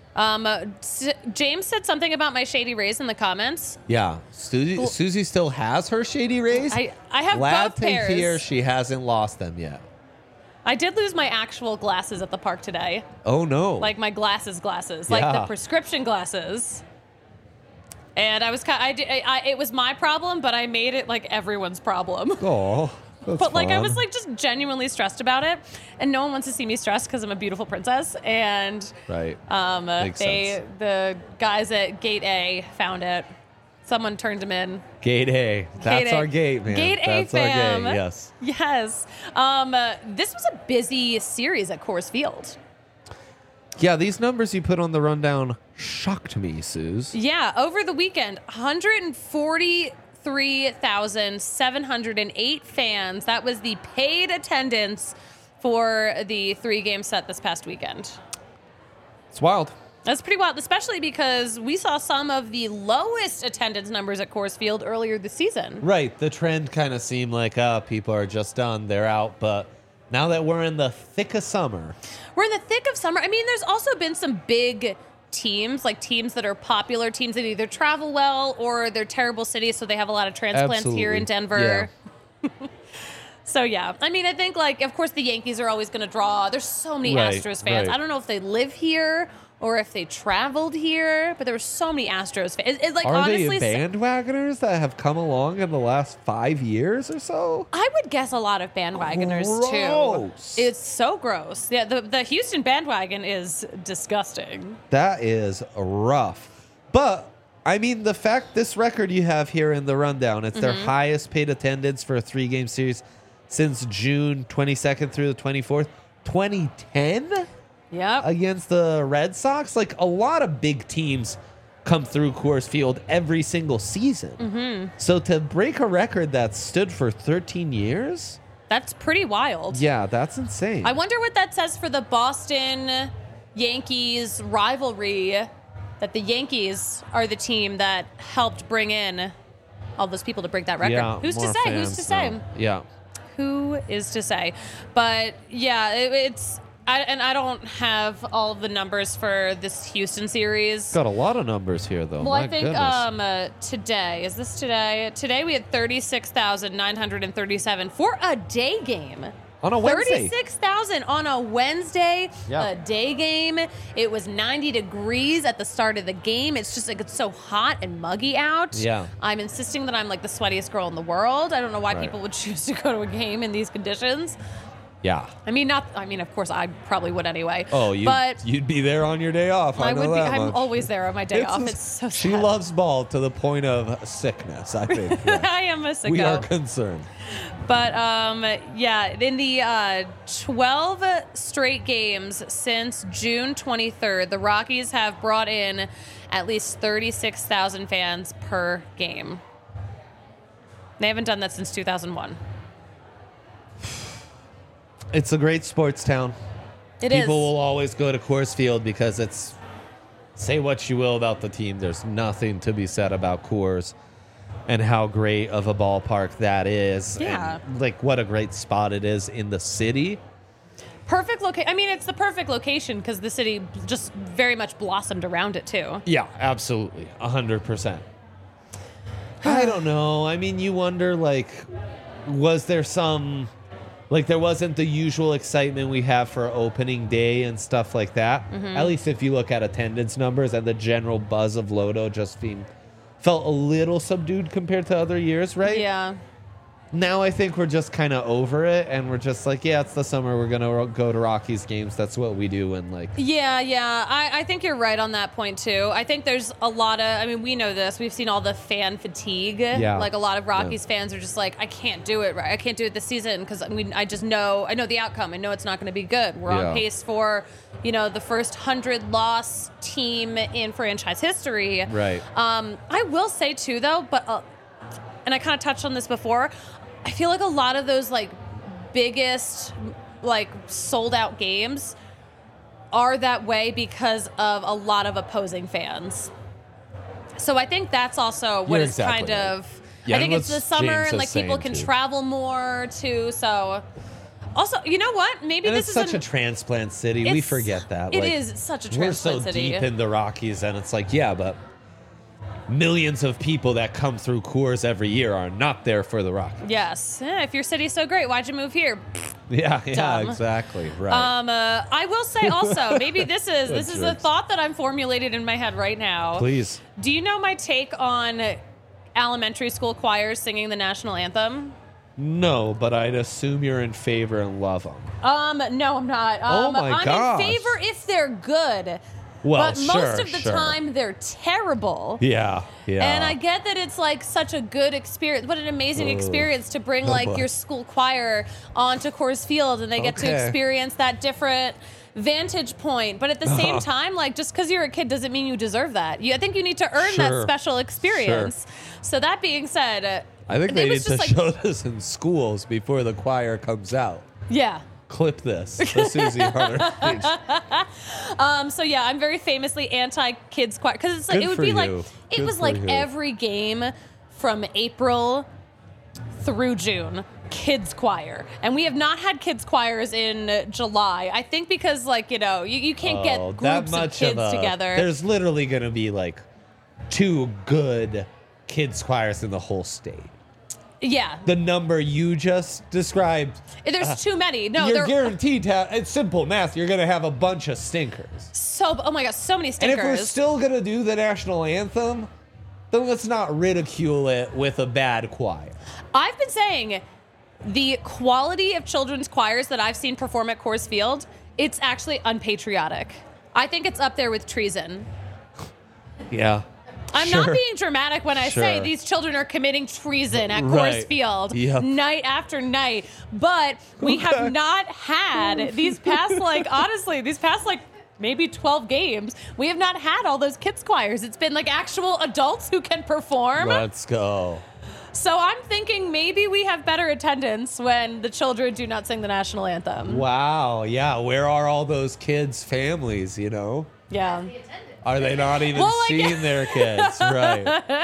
S1: James said something about my Shady Rays in the comments.
S2: Yeah. Susie still has her Shady Rays.
S1: I have
S2: Glad
S1: both
S2: to
S1: pairs.
S2: hear she hasn't lost them yet.
S1: I did lose my actual glasses at the park today.
S2: Oh no.
S1: Like my glasses, like
S2: Yeah.
S1: the prescription glasses. And I was it was my problem, but I made it like everyone's problem.
S2: Oh. That's
S1: But like I
S2: fun.
S1: was like just genuinely stressed about it, and no one wants to see me stressed because I'm a beautiful princess. And
S2: Right. Makes sense.
S1: the guys at Gate A found it. Someone turned them in.
S2: Gate A. That's
S1: Gate A.
S2: our gate, man.
S1: Gate A,
S2: That's
S1: fam.
S2: our gate. Yes.
S1: Yes. This was a busy series at Coors Field.
S2: Yeah, these numbers you put on the rundown shocked me, Suze.
S1: Yeah, over the weekend, 143,708 fans. That was the paid attendance for the 3-game set this past weekend.
S2: It's wild.
S1: That's pretty wild, especially because we saw some of the lowest attendance numbers at Coors Field earlier this season.
S2: Right. The trend kind of seemed like, people are just done. They're out. But now that we're in the thick of summer.
S1: We're in the thick of summer. I mean, there's also been some big teams, like teams that are popular, teams that either travel well or they're terrible cities, so they have a lot of transplants here in Denver.
S2: Yeah.
S1: So, yeah. I mean, I think, like, of course, the Yankees are always going to draw. There's so many
S2: Right,
S1: Astros fans.
S2: right.
S1: I don't know if they live here or if they traveled here, but there were so many Astros fans. It's like,
S2: Are
S1: honestly,
S2: they bandwagoners that have come along in the last 5 years or so?
S1: I would guess a lot of bandwagoners,
S2: Gross.
S1: too. It's so gross. Yeah, the Houston bandwagon is disgusting.
S2: That is rough. But, I mean, the fact this record you have here in the rundown, it's their highest paid attendance for a 3-game series since June 22nd through the 24th. 2010
S1: Yep.
S2: against the Red Sox. Like, a lot of big teams come through Coors Field every single season. So to break a record that stood for 13 years,
S1: That's pretty wild.
S2: yeah, that's insane.
S1: I wonder what that says for the Boston Yankees rivalry, that the Yankees are the team that helped bring in all those people to break that record.
S2: Yeah,
S1: Who's to
S2: more
S1: say? Who's
S2: fans
S1: to say?
S2: now. Yeah.
S1: Who is to say? But yeah, I don't have all of the numbers for this Houston series.
S2: Got a lot of numbers here, though.
S1: Well,
S2: My
S1: I think
S2: goodness.
S1: today, is this today? Today we had 36,937 for a day game.
S2: On a Wednesday.
S1: 36,000 on a Wednesday,
S2: Yeah.
S1: a day game. It was 90 degrees at the start of the game. It's just like it's so hot and muggy out.
S2: Yeah.
S1: I'm insisting that I'm like the sweatiest girl in the world. I don't know why
S2: Right.
S1: people would choose to go to a game in these conditions.
S2: Yeah.
S1: I mean, of course, I probably would anyway.
S2: Oh,
S1: but
S2: you'd be there on your day off. I
S1: I
S2: know
S1: would be.
S2: that
S1: I'm
S2: much.
S1: always there on my day off. It's so sad.
S2: She loves ball to the point of sickness, I think. Yeah.
S1: I am a sicko.
S2: We are concerned.
S1: But yeah, in the 12 straight games since June 23rd, the Rockies have brought in at least 36,000 fans per game. They haven't done that since 2001.
S2: It's a great sports town.
S1: It is.
S2: People will always go to Coors Field because it's, say what you will about the team, there's nothing to be said about Coors and how great of a ballpark that is.
S1: Yeah.
S2: And, like, what a great spot it is in the city.
S1: Perfect location. I mean, it's the perfect location because the city just very much blossomed around it, too.
S2: Yeah, absolutely. 100%. I don't know. I mean, you wonder, like, was there some... Like, there wasn't the usual excitement we have for opening day and stuff like that. At least if you look at attendance numbers, and the general buzz of Lodo just felt a little subdued compared to other years, right?
S1: Yeah.
S2: Now I think we're just kind of over it, and we're just like, yeah, it's the summer. We're going to go to Rockies games. That's what we do. And, like...
S1: Yeah. I think you're right on that point, too. I think there's a lot of, I mean, we know this. We've seen all the fan fatigue.
S2: Yeah.
S1: Like, a lot of Rockies fans are just like, I can't do it right. I can't do it this season because I know the outcome. I know it's not going to be good. We're
S2: Yeah.
S1: on pace for, the first 100-loss team in franchise history.
S2: Right.
S1: I will say, too, though, and I kind of touched on this before, I feel like a lot of those, like, biggest, like, sold-out games are that way because of a lot of opposing fans. So I think that's also what
S2: You're
S1: is
S2: exactly
S1: kind
S2: right.
S1: of...
S2: Yeah,
S1: I think
S2: and
S1: it's the
S2: what
S1: summer
S2: James
S1: and,
S2: is
S1: like, people
S2: saying,
S1: can
S2: too.
S1: travel more, too, so... Also, you know what? Maybe
S2: And
S1: this
S2: it's
S1: is
S2: such a transplant city. We
S1: it's-
S2: forget that.
S1: It
S2: Like,
S1: is such a
S2: we're so
S1: transplant city.
S2: deep in the Rockies, and it's like, yeah, but millions of people that come through Coors every year are not there for the Rockies.
S1: Yes. If your city's so great, why'd you move here?
S2: Yeah,
S1: Dumb.
S2: exactly. Right.
S1: I will say also, maybe this is a
S2: jerks.
S1: thought that I'm formulating in my head right now.
S2: Please.
S1: Do you know my take on elementary school choirs singing the national anthem?
S2: No, but I'd assume you're in favor and love them.
S1: No, I'm not.
S2: Oh my
S1: I'm
S2: gosh.
S1: in favor if they're good.
S2: Well,
S1: but most
S2: sure,
S1: of the
S2: sure.
S1: time they're terrible.
S2: Yeah.
S1: And I get that it's like such a good experience. What an amazing experience to bring
S2: Oh,
S1: like
S2: boy.
S1: your school choir onto Coors Field and they get to
S2: Okay.
S1: experience that different vantage point. But at the same time, like, just because you're a kid doesn't mean you deserve that. I think you need to earn that special experience. So that being said,
S2: I think they
S1: it
S2: need
S1: was
S2: to
S1: just
S2: show this in schools before the choir comes out.
S1: yeah.
S2: Clip this, the Susie Hunter page.
S1: So yeah, I'm very famously anti-kids choir because it's like
S2: Good
S1: it would
S2: for
S1: be
S2: you.
S1: like it
S2: Good
S1: was
S2: for
S1: like
S2: you.
S1: every game from April through June, kids choir, and we have not had kids choirs in July. I think because like you can't get
S2: Oh,
S1: groups of kids together.
S2: There's literally going to be like 2 good kids choirs in the whole state.
S1: Yeah,
S2: The number you just described,
S1: there's too many. No,
S2: you're
S1: they're
S2: guaranteed to have, it's simple math, you're going to have a bunch of stinkers.
S1: oh my gosh, so many
S2: And
S1: stinkers.
S2: if we're still going to do the national anthem, then let's not ridicule it with a bad choir.
S1: I've been saying the quality of children's choirs that I've seen perform at Coors Field, it's actually unpatriotic. I think it's up there with treason.
S2: Yeah.
S1: I'm not being dramatic when I say these children are committing treason at Coors
S2: Right.
S1: Field
S2: Yep.
S1: night after night. But we have not had these past, maybe 12 games, we have not had all those kids choirs. It's been like actual adults who can perform.
S2: Let's go.
S1: So I'm thinking maybe we have better attendance when the children do not sing the national anthem.
S2: Wow. Yeah. Where are all those kids' families,
S1: Yeah.
S2: Are they not even
S1: Well, like-
S2: seeing their kids? Right.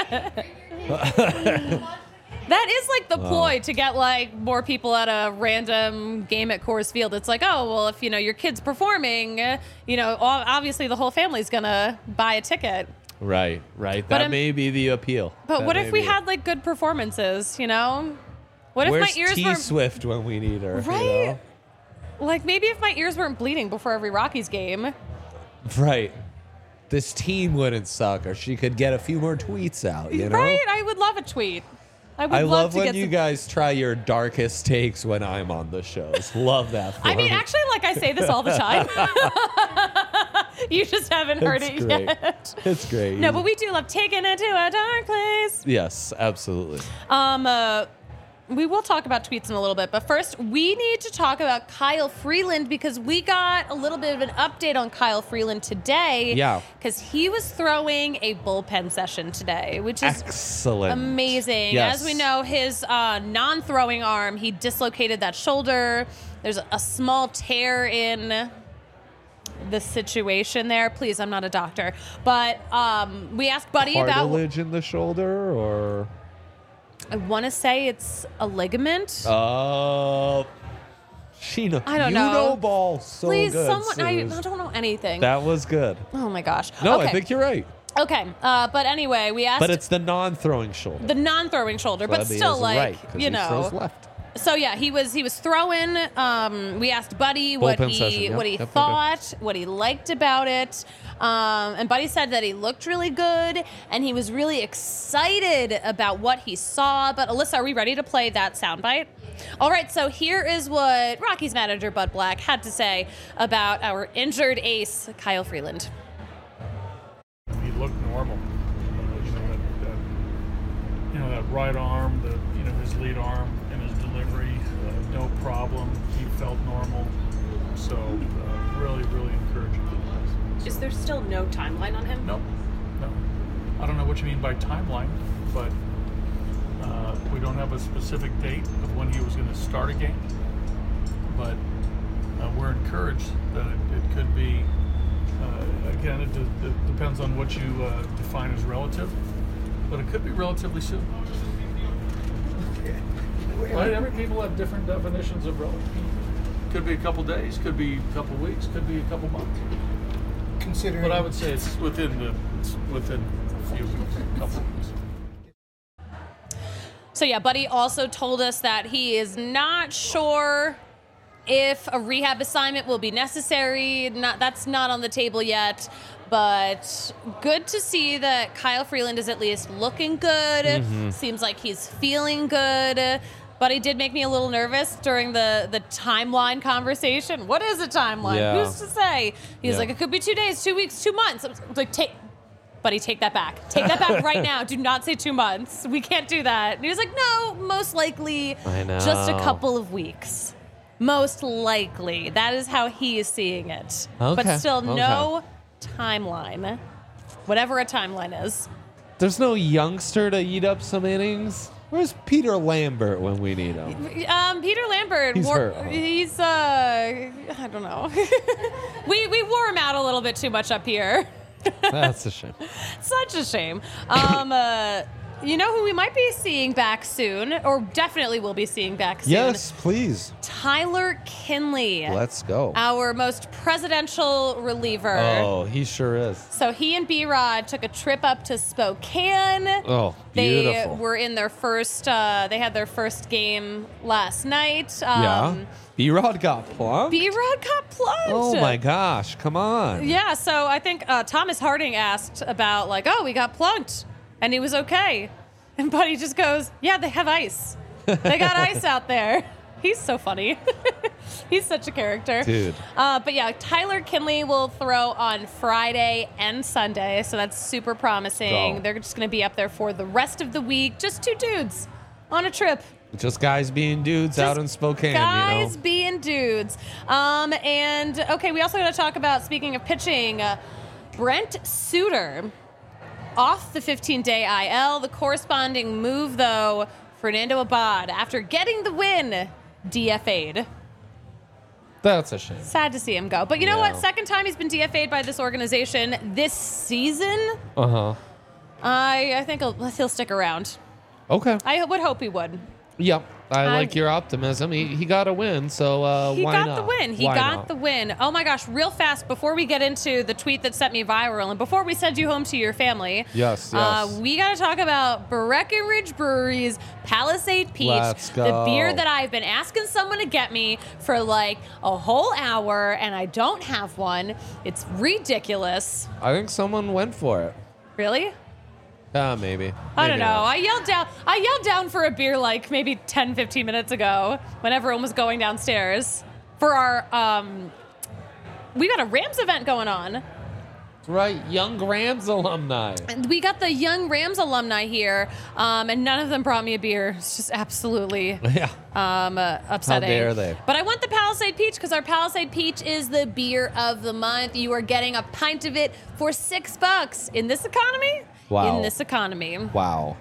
S1: That is like the ploy to get like more people at a random game at Coors Field. It's like, oh, well, if your kid's performing, obviously the whole family's gonna buy a ticket.
S2: Right. That may be the appeal.
S1: But
S2: That
S1: what
S2: may
S1: if we
S2: be.
S1: had like good performances? What if
S2: Where's
S1: my ears
S2: T
S1: weren't
S2: Swift when we need her?
S1: right? Like maybe if my ears weren't bleeding before every Rockies game.
S2: Right. This team wouldn't suck, or she could get a few more tweets out.
S1: Right? I would love a tweet. I would
S2: I love
S1: to
S2: when
S1: get
S2: you
S1: some-
S2: guys try your darkest takes when I'm on the shows. Love that. For
S1: I mean,
S2: me.
S1: actually, like I say this all the time. You just haven't heard
S2: It's
S1: it
S2: great.
S1: yet.
S2: It's great.
S1: No, but we do love taking it to a dark place.
S2: Yes, absolutely.
S1: We will talk about tweets in a little bit, but first we need to talk about Kyle Freeland because we got a little bit of an update on Kyle Freeland today.
S2: Yeah.
S1: Because he was throwing a bullpen session today, which is
S2: Excellent.
S1: amazing.
S2: Yes.
S1: As we know, his non-throwing arm, he dislocated that shoulder. There's a small tear in the situation there. Please, I'm not a doctor. But we asked Buddy about...
S2: Cartilage in the shoulder, or
S1: I want to say it's a ligament.
S2: Sheena,
S1: I don't
S2: you
S1: know.
S2: ball so
S1: Please,
S2: good.
S1: someone... I
S2: Suze.
S1: don't know anything.
S2: That was good.
S1: Oh, my gosh.
S2: No,
S1: Okay.
S2: I think you're right.
S1: Okay, but anyway, we asked...
S2: But it's the non-throwing shoulder.
S1: the non-throwing shoulder, but
S2: That'd be
S1: still,
S2: his
S1: like,
S2: right, 'cause he throws left.
S1: So yeah, he was throwing. We asked Buddy what
S2: Bullpen
S1: he
S2: session, yep,
S1: what he
S2: yep,
S1: thought, what he liked about it, and Buddy said that he looked really good and he was really excited about what he saw. But Alyssa, are we ready to play that soundbite? All right, so here is what Rockies manager Bud Black had to say about our injured ace Kyle Freeland.
S6: He looked normal. That right arm, his lead arm and his delivery, no problem. He felt normal. So really, really encouraging.
S1: Is there still no timeline on him?
S6: No. I don't know what you mean by timeline, but we don't have a specific date of when he was going to start a game. But we're encouraged that it could be. Again, it depends on what you define as relative, but it could be relatively soon. Right? Every people have different definitions of relative. Could be a couple days, could be a couple weeks, could be a couple months.
S5: Considering,
S6: But I would say it's within a few weeks, a couple weeks.
S1: So yeah, Buddy also told us that he is not sure if a rehab assignment will be necessary. That's not on the table yet, but good to see that Kyle Freeland is at least looking good. Seems like he's feeling good. Buddy did make me a little nervous during the timeline conversation. What is a timeline?
S2: Yeah.
S1: Who's to say? He's
S2: Yeah.
S1: like, it could be 2 days, 2 weeks, 2 months. I was like, Buddy, take that back. Take that back right now. Do not say 2 months. We can't do that. And he was like, no, most likely
S2: I know.
S1: just a couple of weeks. Most likely. That is how he is seeing it.
S2: Okay,
S1: But still,
S2: okay.
S1: no timeline. Whatever a timeline is.
S2: There's no youngster to eat up some innings. Where's Peter Lambert when we need him?
S1: Peter Lambert,
S2: He's hurt, huh?
S1: he's I don't know. we wore him out a little bit too much up here.
S2: That's a shame.
S1: Such a shame. You know who we might be seeing back soon, or definitely will be seeing back soon?
S2: Yes, please.
S1: Tyler Kinley.
S2: Let's go.
S1: Our most presidential reliever.
S2: Oh, he sure is.
S1: So he and B-Rod took a trip up to Spokane.
S2: Oh,
S1: They
S2: beautiful.
S1: were in their first, they had their first game last night.
S2: Yeah. B-Rod got plumped?
S1: B-Rod got plugged.
S2: Oh my gosh, come on.
S1: Yeah, so I think Thomas Harding asked about, like, oh, we got plunked. And he was okay. And Buddy just goes, yeah, they have ice. They got ice out there. He's so funny. He's such a character.
S2: Dude.
S1: But yeah, Tyler Kinley will throw on Friday and Sunday, so that's super promising.
S2: Go.
S1: They're just going to be up there for the rest of the week. Just two dudes on a trip.
S2: Just guys being dudes out in Spokane,
S1: Guys
S2: you know?
S1: being dudes. And, okay, we also got to talk about, speaking of pitching, Brent Suter off the 15-day IL. The corresponding move, though, Fernando Abad, after getting the win, DFA'd.
S2: That's a shame.
S1: Sad to see him go. But you know what?
S2: Yeah.
S1: Second time he's been DFA'd by this organization this season.
S2: Uh-huh.
S1: I think he'll stick around.
S2: Okay.
S1: I would hope he would.
S2: Yep. I like your optimism. He got a win, so
S1: He
S2: why
S1: got
S2: not?
S1: the win. He
S2: Why
S1: got
S2: not?
S1: the win. Oh my gosh, real fast, before we get into the tweet that sent me viral and before we send you home to your family,
S2: Yes.
S1: we got to talk about Breckenridge Brewery's Palisade Peach,
S2: Let's
S1: the
S2: go.
S1: beer that I've been asking someone to get me for like a whole hour, and I don't have one. It's ridiculous.
S2: I think someone went for it.
S1: Really?
S2: Maybe.
S1: I don't
S2: Maybe
S1: know.
S2: not.
S1: I yelled down for a beer like maybe 10, 15 minutes ago when everyone was going downstairs for our, we got a Rams event going on.
S2: Right, Young Rams alumni.
S1: And we got the Young Rams alumni here, and none of them brought me a beer. It's just absolutely
S2: Yeah.
S1: upsetting.
S2: How dare they?
S1: But I want the Palisade Peach because our Palisade Peach is the beer of the month. You are getting a pint of it for $6 in this economy.
S2: Wow.
S1: In this economy.
S2: Wow.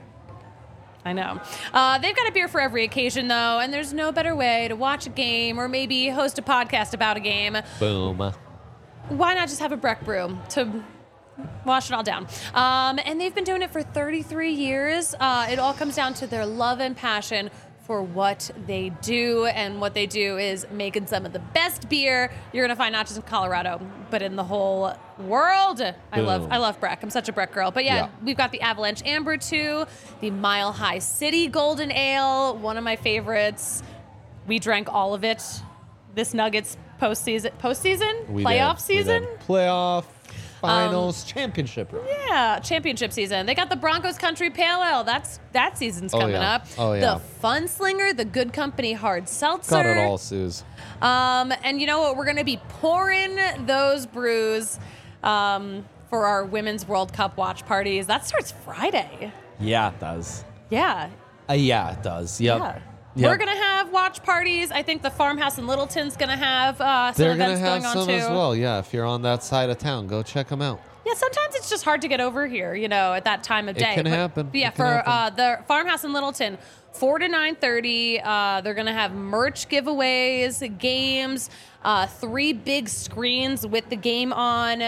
S1: I know. They've got a beer for every occasion, though, and there's no better way to watch a game or maybe host a podcast about a game.
S2: Boom.
S1: Why not just have a Breck brew to wash it all down? And they've been doing it for 33 years. It all comes down to their love and passion for what they do, and what they do is making some of the best beer you're gonna find not just in Colorado, but in the whole world. I love Breck. I'm such a Breck girl. But yeah, we've got the Avalanche Amber 2, the Mile High City Golden Ale, one of my favorites. We drank all of it. This Nuggets postseason?
S2: We
S1: Playoff
S2: did.
S1: season?
S2: We did. Playoff, finals, championship.
S1: Yeah, championship season. They got the Broncos Country Pale Ale. That season's coming
S2: yeah.
S1: up.
S2: Oh, yeah.
S1: The Funslinger, the Good Company Hard Seltzer.
S2: Got it all, Suze.
S1: And you know what? We're going to be pouring those brews for our Women's World Cup watch parties. That starts Friday.
S2: Yeah, it does.
S1: Yeah.
S2: Yeah, it does. Yep.
S1: Yeah.
S2: Yep.
S1: We're going to have watch parties. I think the Farmhouse in Littleton's going to have some
S2: They're gonna
S1: events
S2: have
S1: going on
S2: some
S1: too.
S2: as well. Yeah, if you're on that side of town, go check them out.
S1: Yeah, sometimes it's just hard to get over here, at that time of
S2: It
S1: day.
S2: can happen.
S1: But yeah,
S2: It can
S1: for
S2: happen.
S1: the Farmhouse in Littleton, 4 to 9:30, they're going to have merch giveaways, games, 3 big screens with the game on.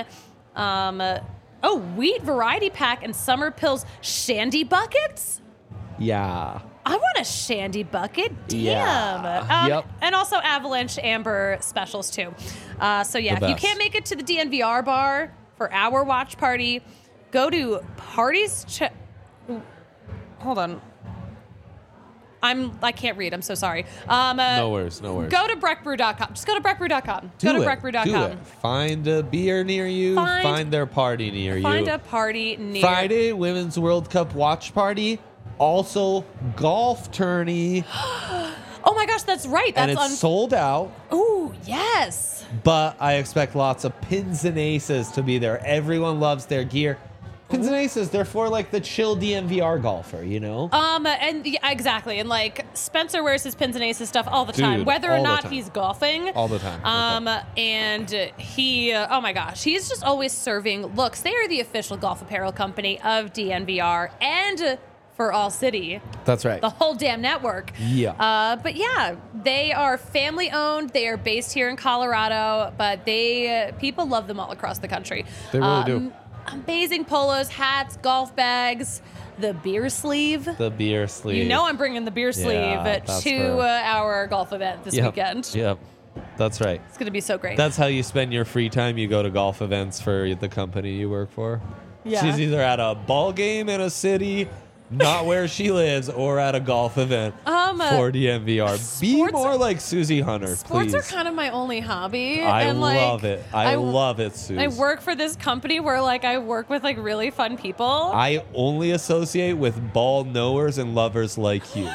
S1: Wheat variety pack and Summer Pills shandy buckets.
S2: Yeah.
S1: I want a shandy bucket. Damn.
S2: Yeah. Yep.
S1: And also Avalanche Amber specials too. So yeah,
S2: The
S1: if you
S2: best.
S1: can't make it to the DNVR bar for our watch party, go to parties. Hold on. I can't read. I'm so sorry.
S2: No worries. No worries.
S1: Go to breckbrew.com. Just go to breckbrew.com.
S2: Do
S1: Go to
S2: it.
S1: breckbrew.com.
S2: Do it. Find a beer near you. Find their party near
S1: Find
S2: you.
S1: a party near.
S2: Friday, Women's World Cup watch party. Also, golf tourney.
S1: Oh my gosh, that's right.
S2: And
S1: That's
S2: it's sold out.
S1: Ooh, yes.
S2: But I expect lots of pins and aces to be there. Everyone loves their gear. Pins and Aces, they're for like the chill DMVR golfer, you know?
S1: And yeah, exactly. And like Spencer wears his Pins and Aces stuff all the time,
S2: Dude,
S1: whether
S2: all
S1: or
S2: the
S1: not
S2: time.
S1: he's golfing.
S2: All the time.
S1: And he, oh my gosh, he's just always serving looks. They are the official golf apparel company of DNVR and for All City,
S2: That's right.
S1: the whole damn network.
S2: Yeah.
S1: But yeah, they are family owned. They are based here in Colorado, but people love them all across the country.
S2: They really do.
S1: Amazing polos, hats, golf bags, the beer sleeve.
S2: The beer sleeve.
S1: You know I'm bringing the beer sleeve
S2: that's
S1: to
S2: for-
S1: our golf event this weekend.
S2: Yep. That's right.
S1: It's going to be so great.
S2: That's how you spend your free time. You go to golf events for the company you work for.
S1: Yeah.
S2: She's either at a ball game in a city, not where she lives, or at a golf event for DMVR. Be
S1: sports-
S2: more like Susie Hunter,
S1: Sports
S2: please.
S1: are kind of my only hobby.
S2: I
S1: and like,
S2: love it. I love it, Susie.
S1: I work for this company where like I work with like really fun people.
S2: I only associate with ball knowers and lovers like you.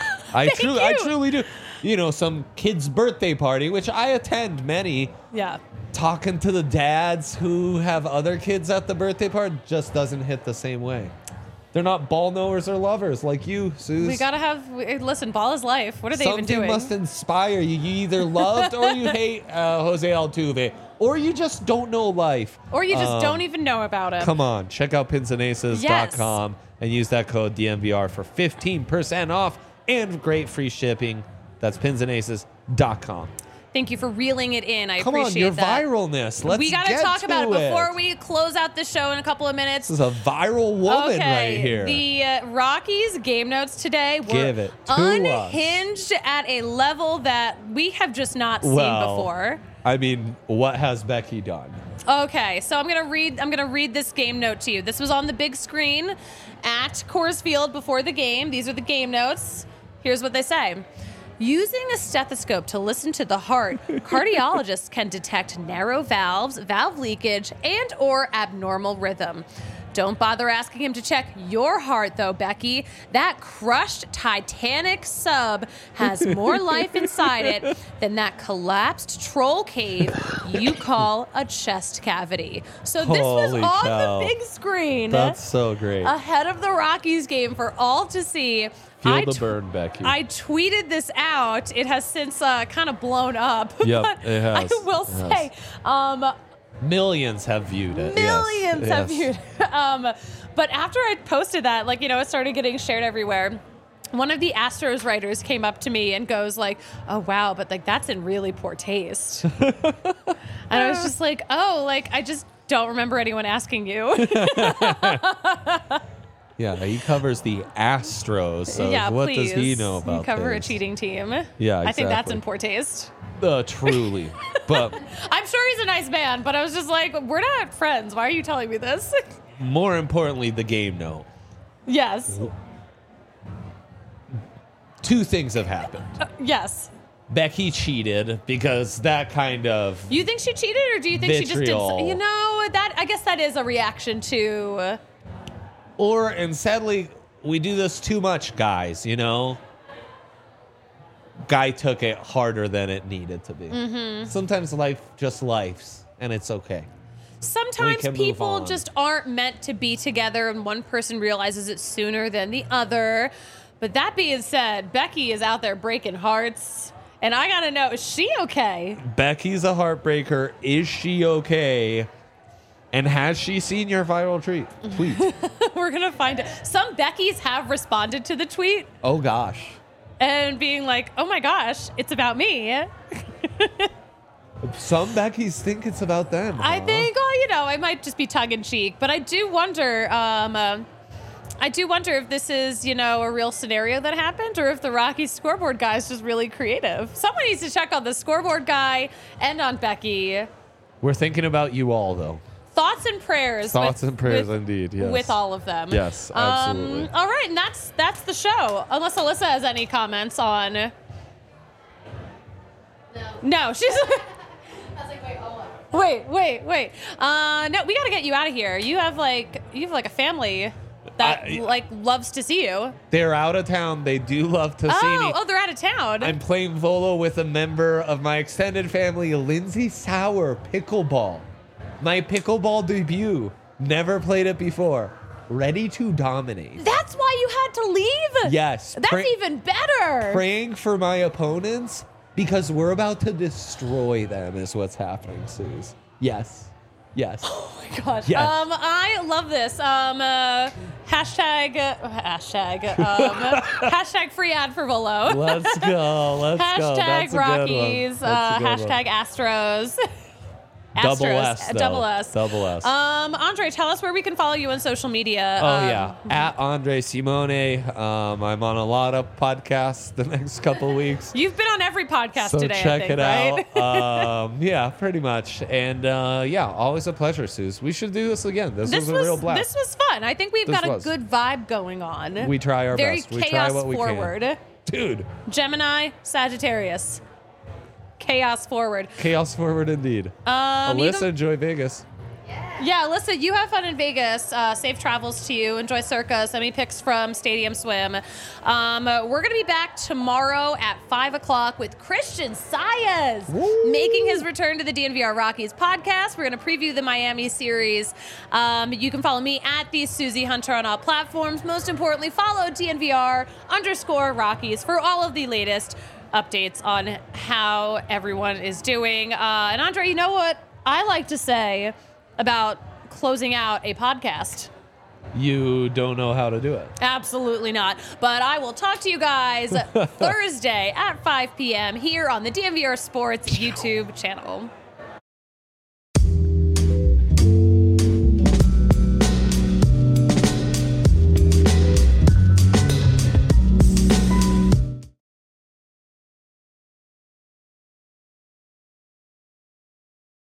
S2: I truly do. You know, some kid's birthday party, which I attend many.
S1: Yeah.
S2: Talking to the dads who have other kids at the birthday party just doesn't hit the same way. They're not ball knowers or lovers like you, Suze.
S1: We gotta listen, ball is life. What are they even doing?
S2: Something must inspire you. You either loved or you hate Jose Altuve, or you just don't know life.
S1: Or you just don't even know about him.
S2: Come on, check out pinsandaces.com and use that code DMVR for 15% off and great free shipping. That's pinsandaces.com.
S1: Thank you for reeling it in. I
S2: Come on,
S1: appreciate
S2: your
S1: that.
S2: viralness. Let's
S1: We gotta
S2: get
S1: talk
S2: to
S1: about it
S2: it
S1: before we close out the show in a couple of minutes.
S2: This is a viral woman right here.
S1: The Rockies game notes today were
S2: Give it to us.
S1: unhinged at a level that we have just not seen before.
S2: I mean, what has Becky done?
S1: Okay, so I'm gonna read this game note to you. This was on the big screen at Coors Field before the game. These are the game notes. Here's what they say. Using a stethoscope to listen to the heart, cardiologists can detect narrow valves, valve leakage, and or abnormal rhythm. Don't bother asking him to check your heart, though, Becky. That crushed Titanic sub has more life inside it than that collapsed troll cave you call a chest cavity. So this was
S2: Holy
S1: on
S2: cow.
S1: the big screen
S2: That's so great.
S1: ahead of the Rockies game for all to see.
S2: Feel the burn, Becky.
S1: I tweeted this out. It has since kind of blown up.
S2: Yep,
S1: but
S2: it has.
S1: I will
S2: It
S1: say,
S2: Millions have viewed it.
S1: millions
S2: Yes.
S1: have viewed it. But after I posted that, like, it started getting shared everywhere. One of the Astros writers came up to me and goes like, "Oh wow, but like that's in really poor taste." And I was just like, "Oh, like I just don't remember anyone asking you."
S2: Yeah, he covers the Astros. So
S1: Yeah,
S2: what
S1: please.
S2: does he know about
S1: You cover
S2: this?
S1: a cheating team.
S2: Yeah,
S1: I think that's
S2: exactly.
S1: in poor taste.
S2: Truly. But
S1: I'm sure he's a nice man, but I was just like, we're not friends. Why are you telling me this?
S2: more importantly, the game note.
S1: Yes.
S2: Two things have happened.
S1: Yes.
S2: Becky cheated because that kind of
S1: You think she cheated, or do you think she just did?
S2: Vitriol.
S1: That I guess that is a reaction to.
S2: and sadly, we do this too much, guys, Guy took it harder than it needed to be.
S1: Mm-hmm.
S2: Sometimes life just lifes, and it's okay.
S1: Sometimes
S2: can move
S1: people
S2: on.
S1: just aren't meant to be together, and one person realizes it sooner than the other. But that being said, Becky is out there breaking hearts, and I gotta know, is she okay?
S2: Becky's a heartbreaker. Is she okay? And has she seen your viral tweet?
S1: We're gonna find it. Some Beckys have responded to the tweet
S2: Oh, gosh.
S1: and being like, "Oh my gosh, it's about me."
S2: Some Beckys think it's about them.
S1: I
S2: huh?
S1: think, it might just be tongue in cheek, but I do wonder. I do wonder if this is, a real scenario that happened, or if the Rockies scoreboard guy is just really creative. Someone needs to check on the scoreboard guy and on Becky.
S2: We're thinking about you all, though.
S1: Thoughts and prayers.
S2: Thoughts and prayers, indeed, yes.
S1: With all of them.
S2: Yes, absolutely.
S1: All right, and that's the show. Unless Alyssa has any comments on. No, she's.
S7: I was like, wait, hold on.
S1: Wait. No, we got to get you out of here. You have like a family that loves to see you.
S2: They're out of town. They do love to see me.
S1: Oh, they're out of town.
S2: I'm playing Volo with a member of my extended family, Lindsay Sauer, pickleball. My pickleball debut. Never played it before. Ready to dominate.
S1: That's why you had to leave.
S2: Yes.
S1: That's even better.
S2: Praying for my opponents because we're about to destroy them is what's happening, Suze. Yes. Yes.
S1: Oh my gosh.
S2: Yes.
S1: I love this. Hashtag free ad for Volo.
S2: Let's go. Let's go. That's
S1: Hashtag
S2: a
S1: Rockies.
S2: good one. That's a good
S1: Hashtag
S2: one.
S1: Astros.
S2: Double
S1: Astros.
S2: S, though.
S1: Double S.
S2: Double S.
S1: Andre, tell us where we can follow you on social media.
S2: Oh, yeah. At Andre Simone. I'm on a lot of podcasts the next couple weeks.
S1: You've been on every podcast
S2: So
S1: today,
S2: check
S1: I think,
S2: it
S1: right?
S2: out. Yeah, pretty much. And yeah, always a pleasure, Suze. We should do this again. This was a real blast.
S1: This was fun. I think we've
S2: This
S1: got
S2: was.
S1: a good vibe going on.
S2: We try our
S1: Very
S2: best. We try
S1: chaos
S2: what we
S1: forward.
S2: can. Dude,
S1: Gemini, Sagittarius. Chaos forward.
S2: chaos forward indeed.
S1: You
S2: Alyssa,
S1: can-
S2: enjoy Vegas.
S1: Yeah, Alyssa, you have fun in Vegas. Safe travels to you. Enjoy Circa. Send me pics from Stadium Swim. We're going to be back tomorrow at 5 o'clock with Christian Saez making his return to the DNVR Rockies podcast. We're going to preview the Miami series. You can follow me at the Susie Hunter on all platforms. Most importantly, follow DNVR_Rockies for all of the latest updates on how everyone is doing. And Andre, you know what I like to say about closing out a podcast?
S2: You don't know how to do it.
S1: Absolutely not. But I will talk to you guys Thursday at 5 p.m. here on the DNVR Sports YouTube channel.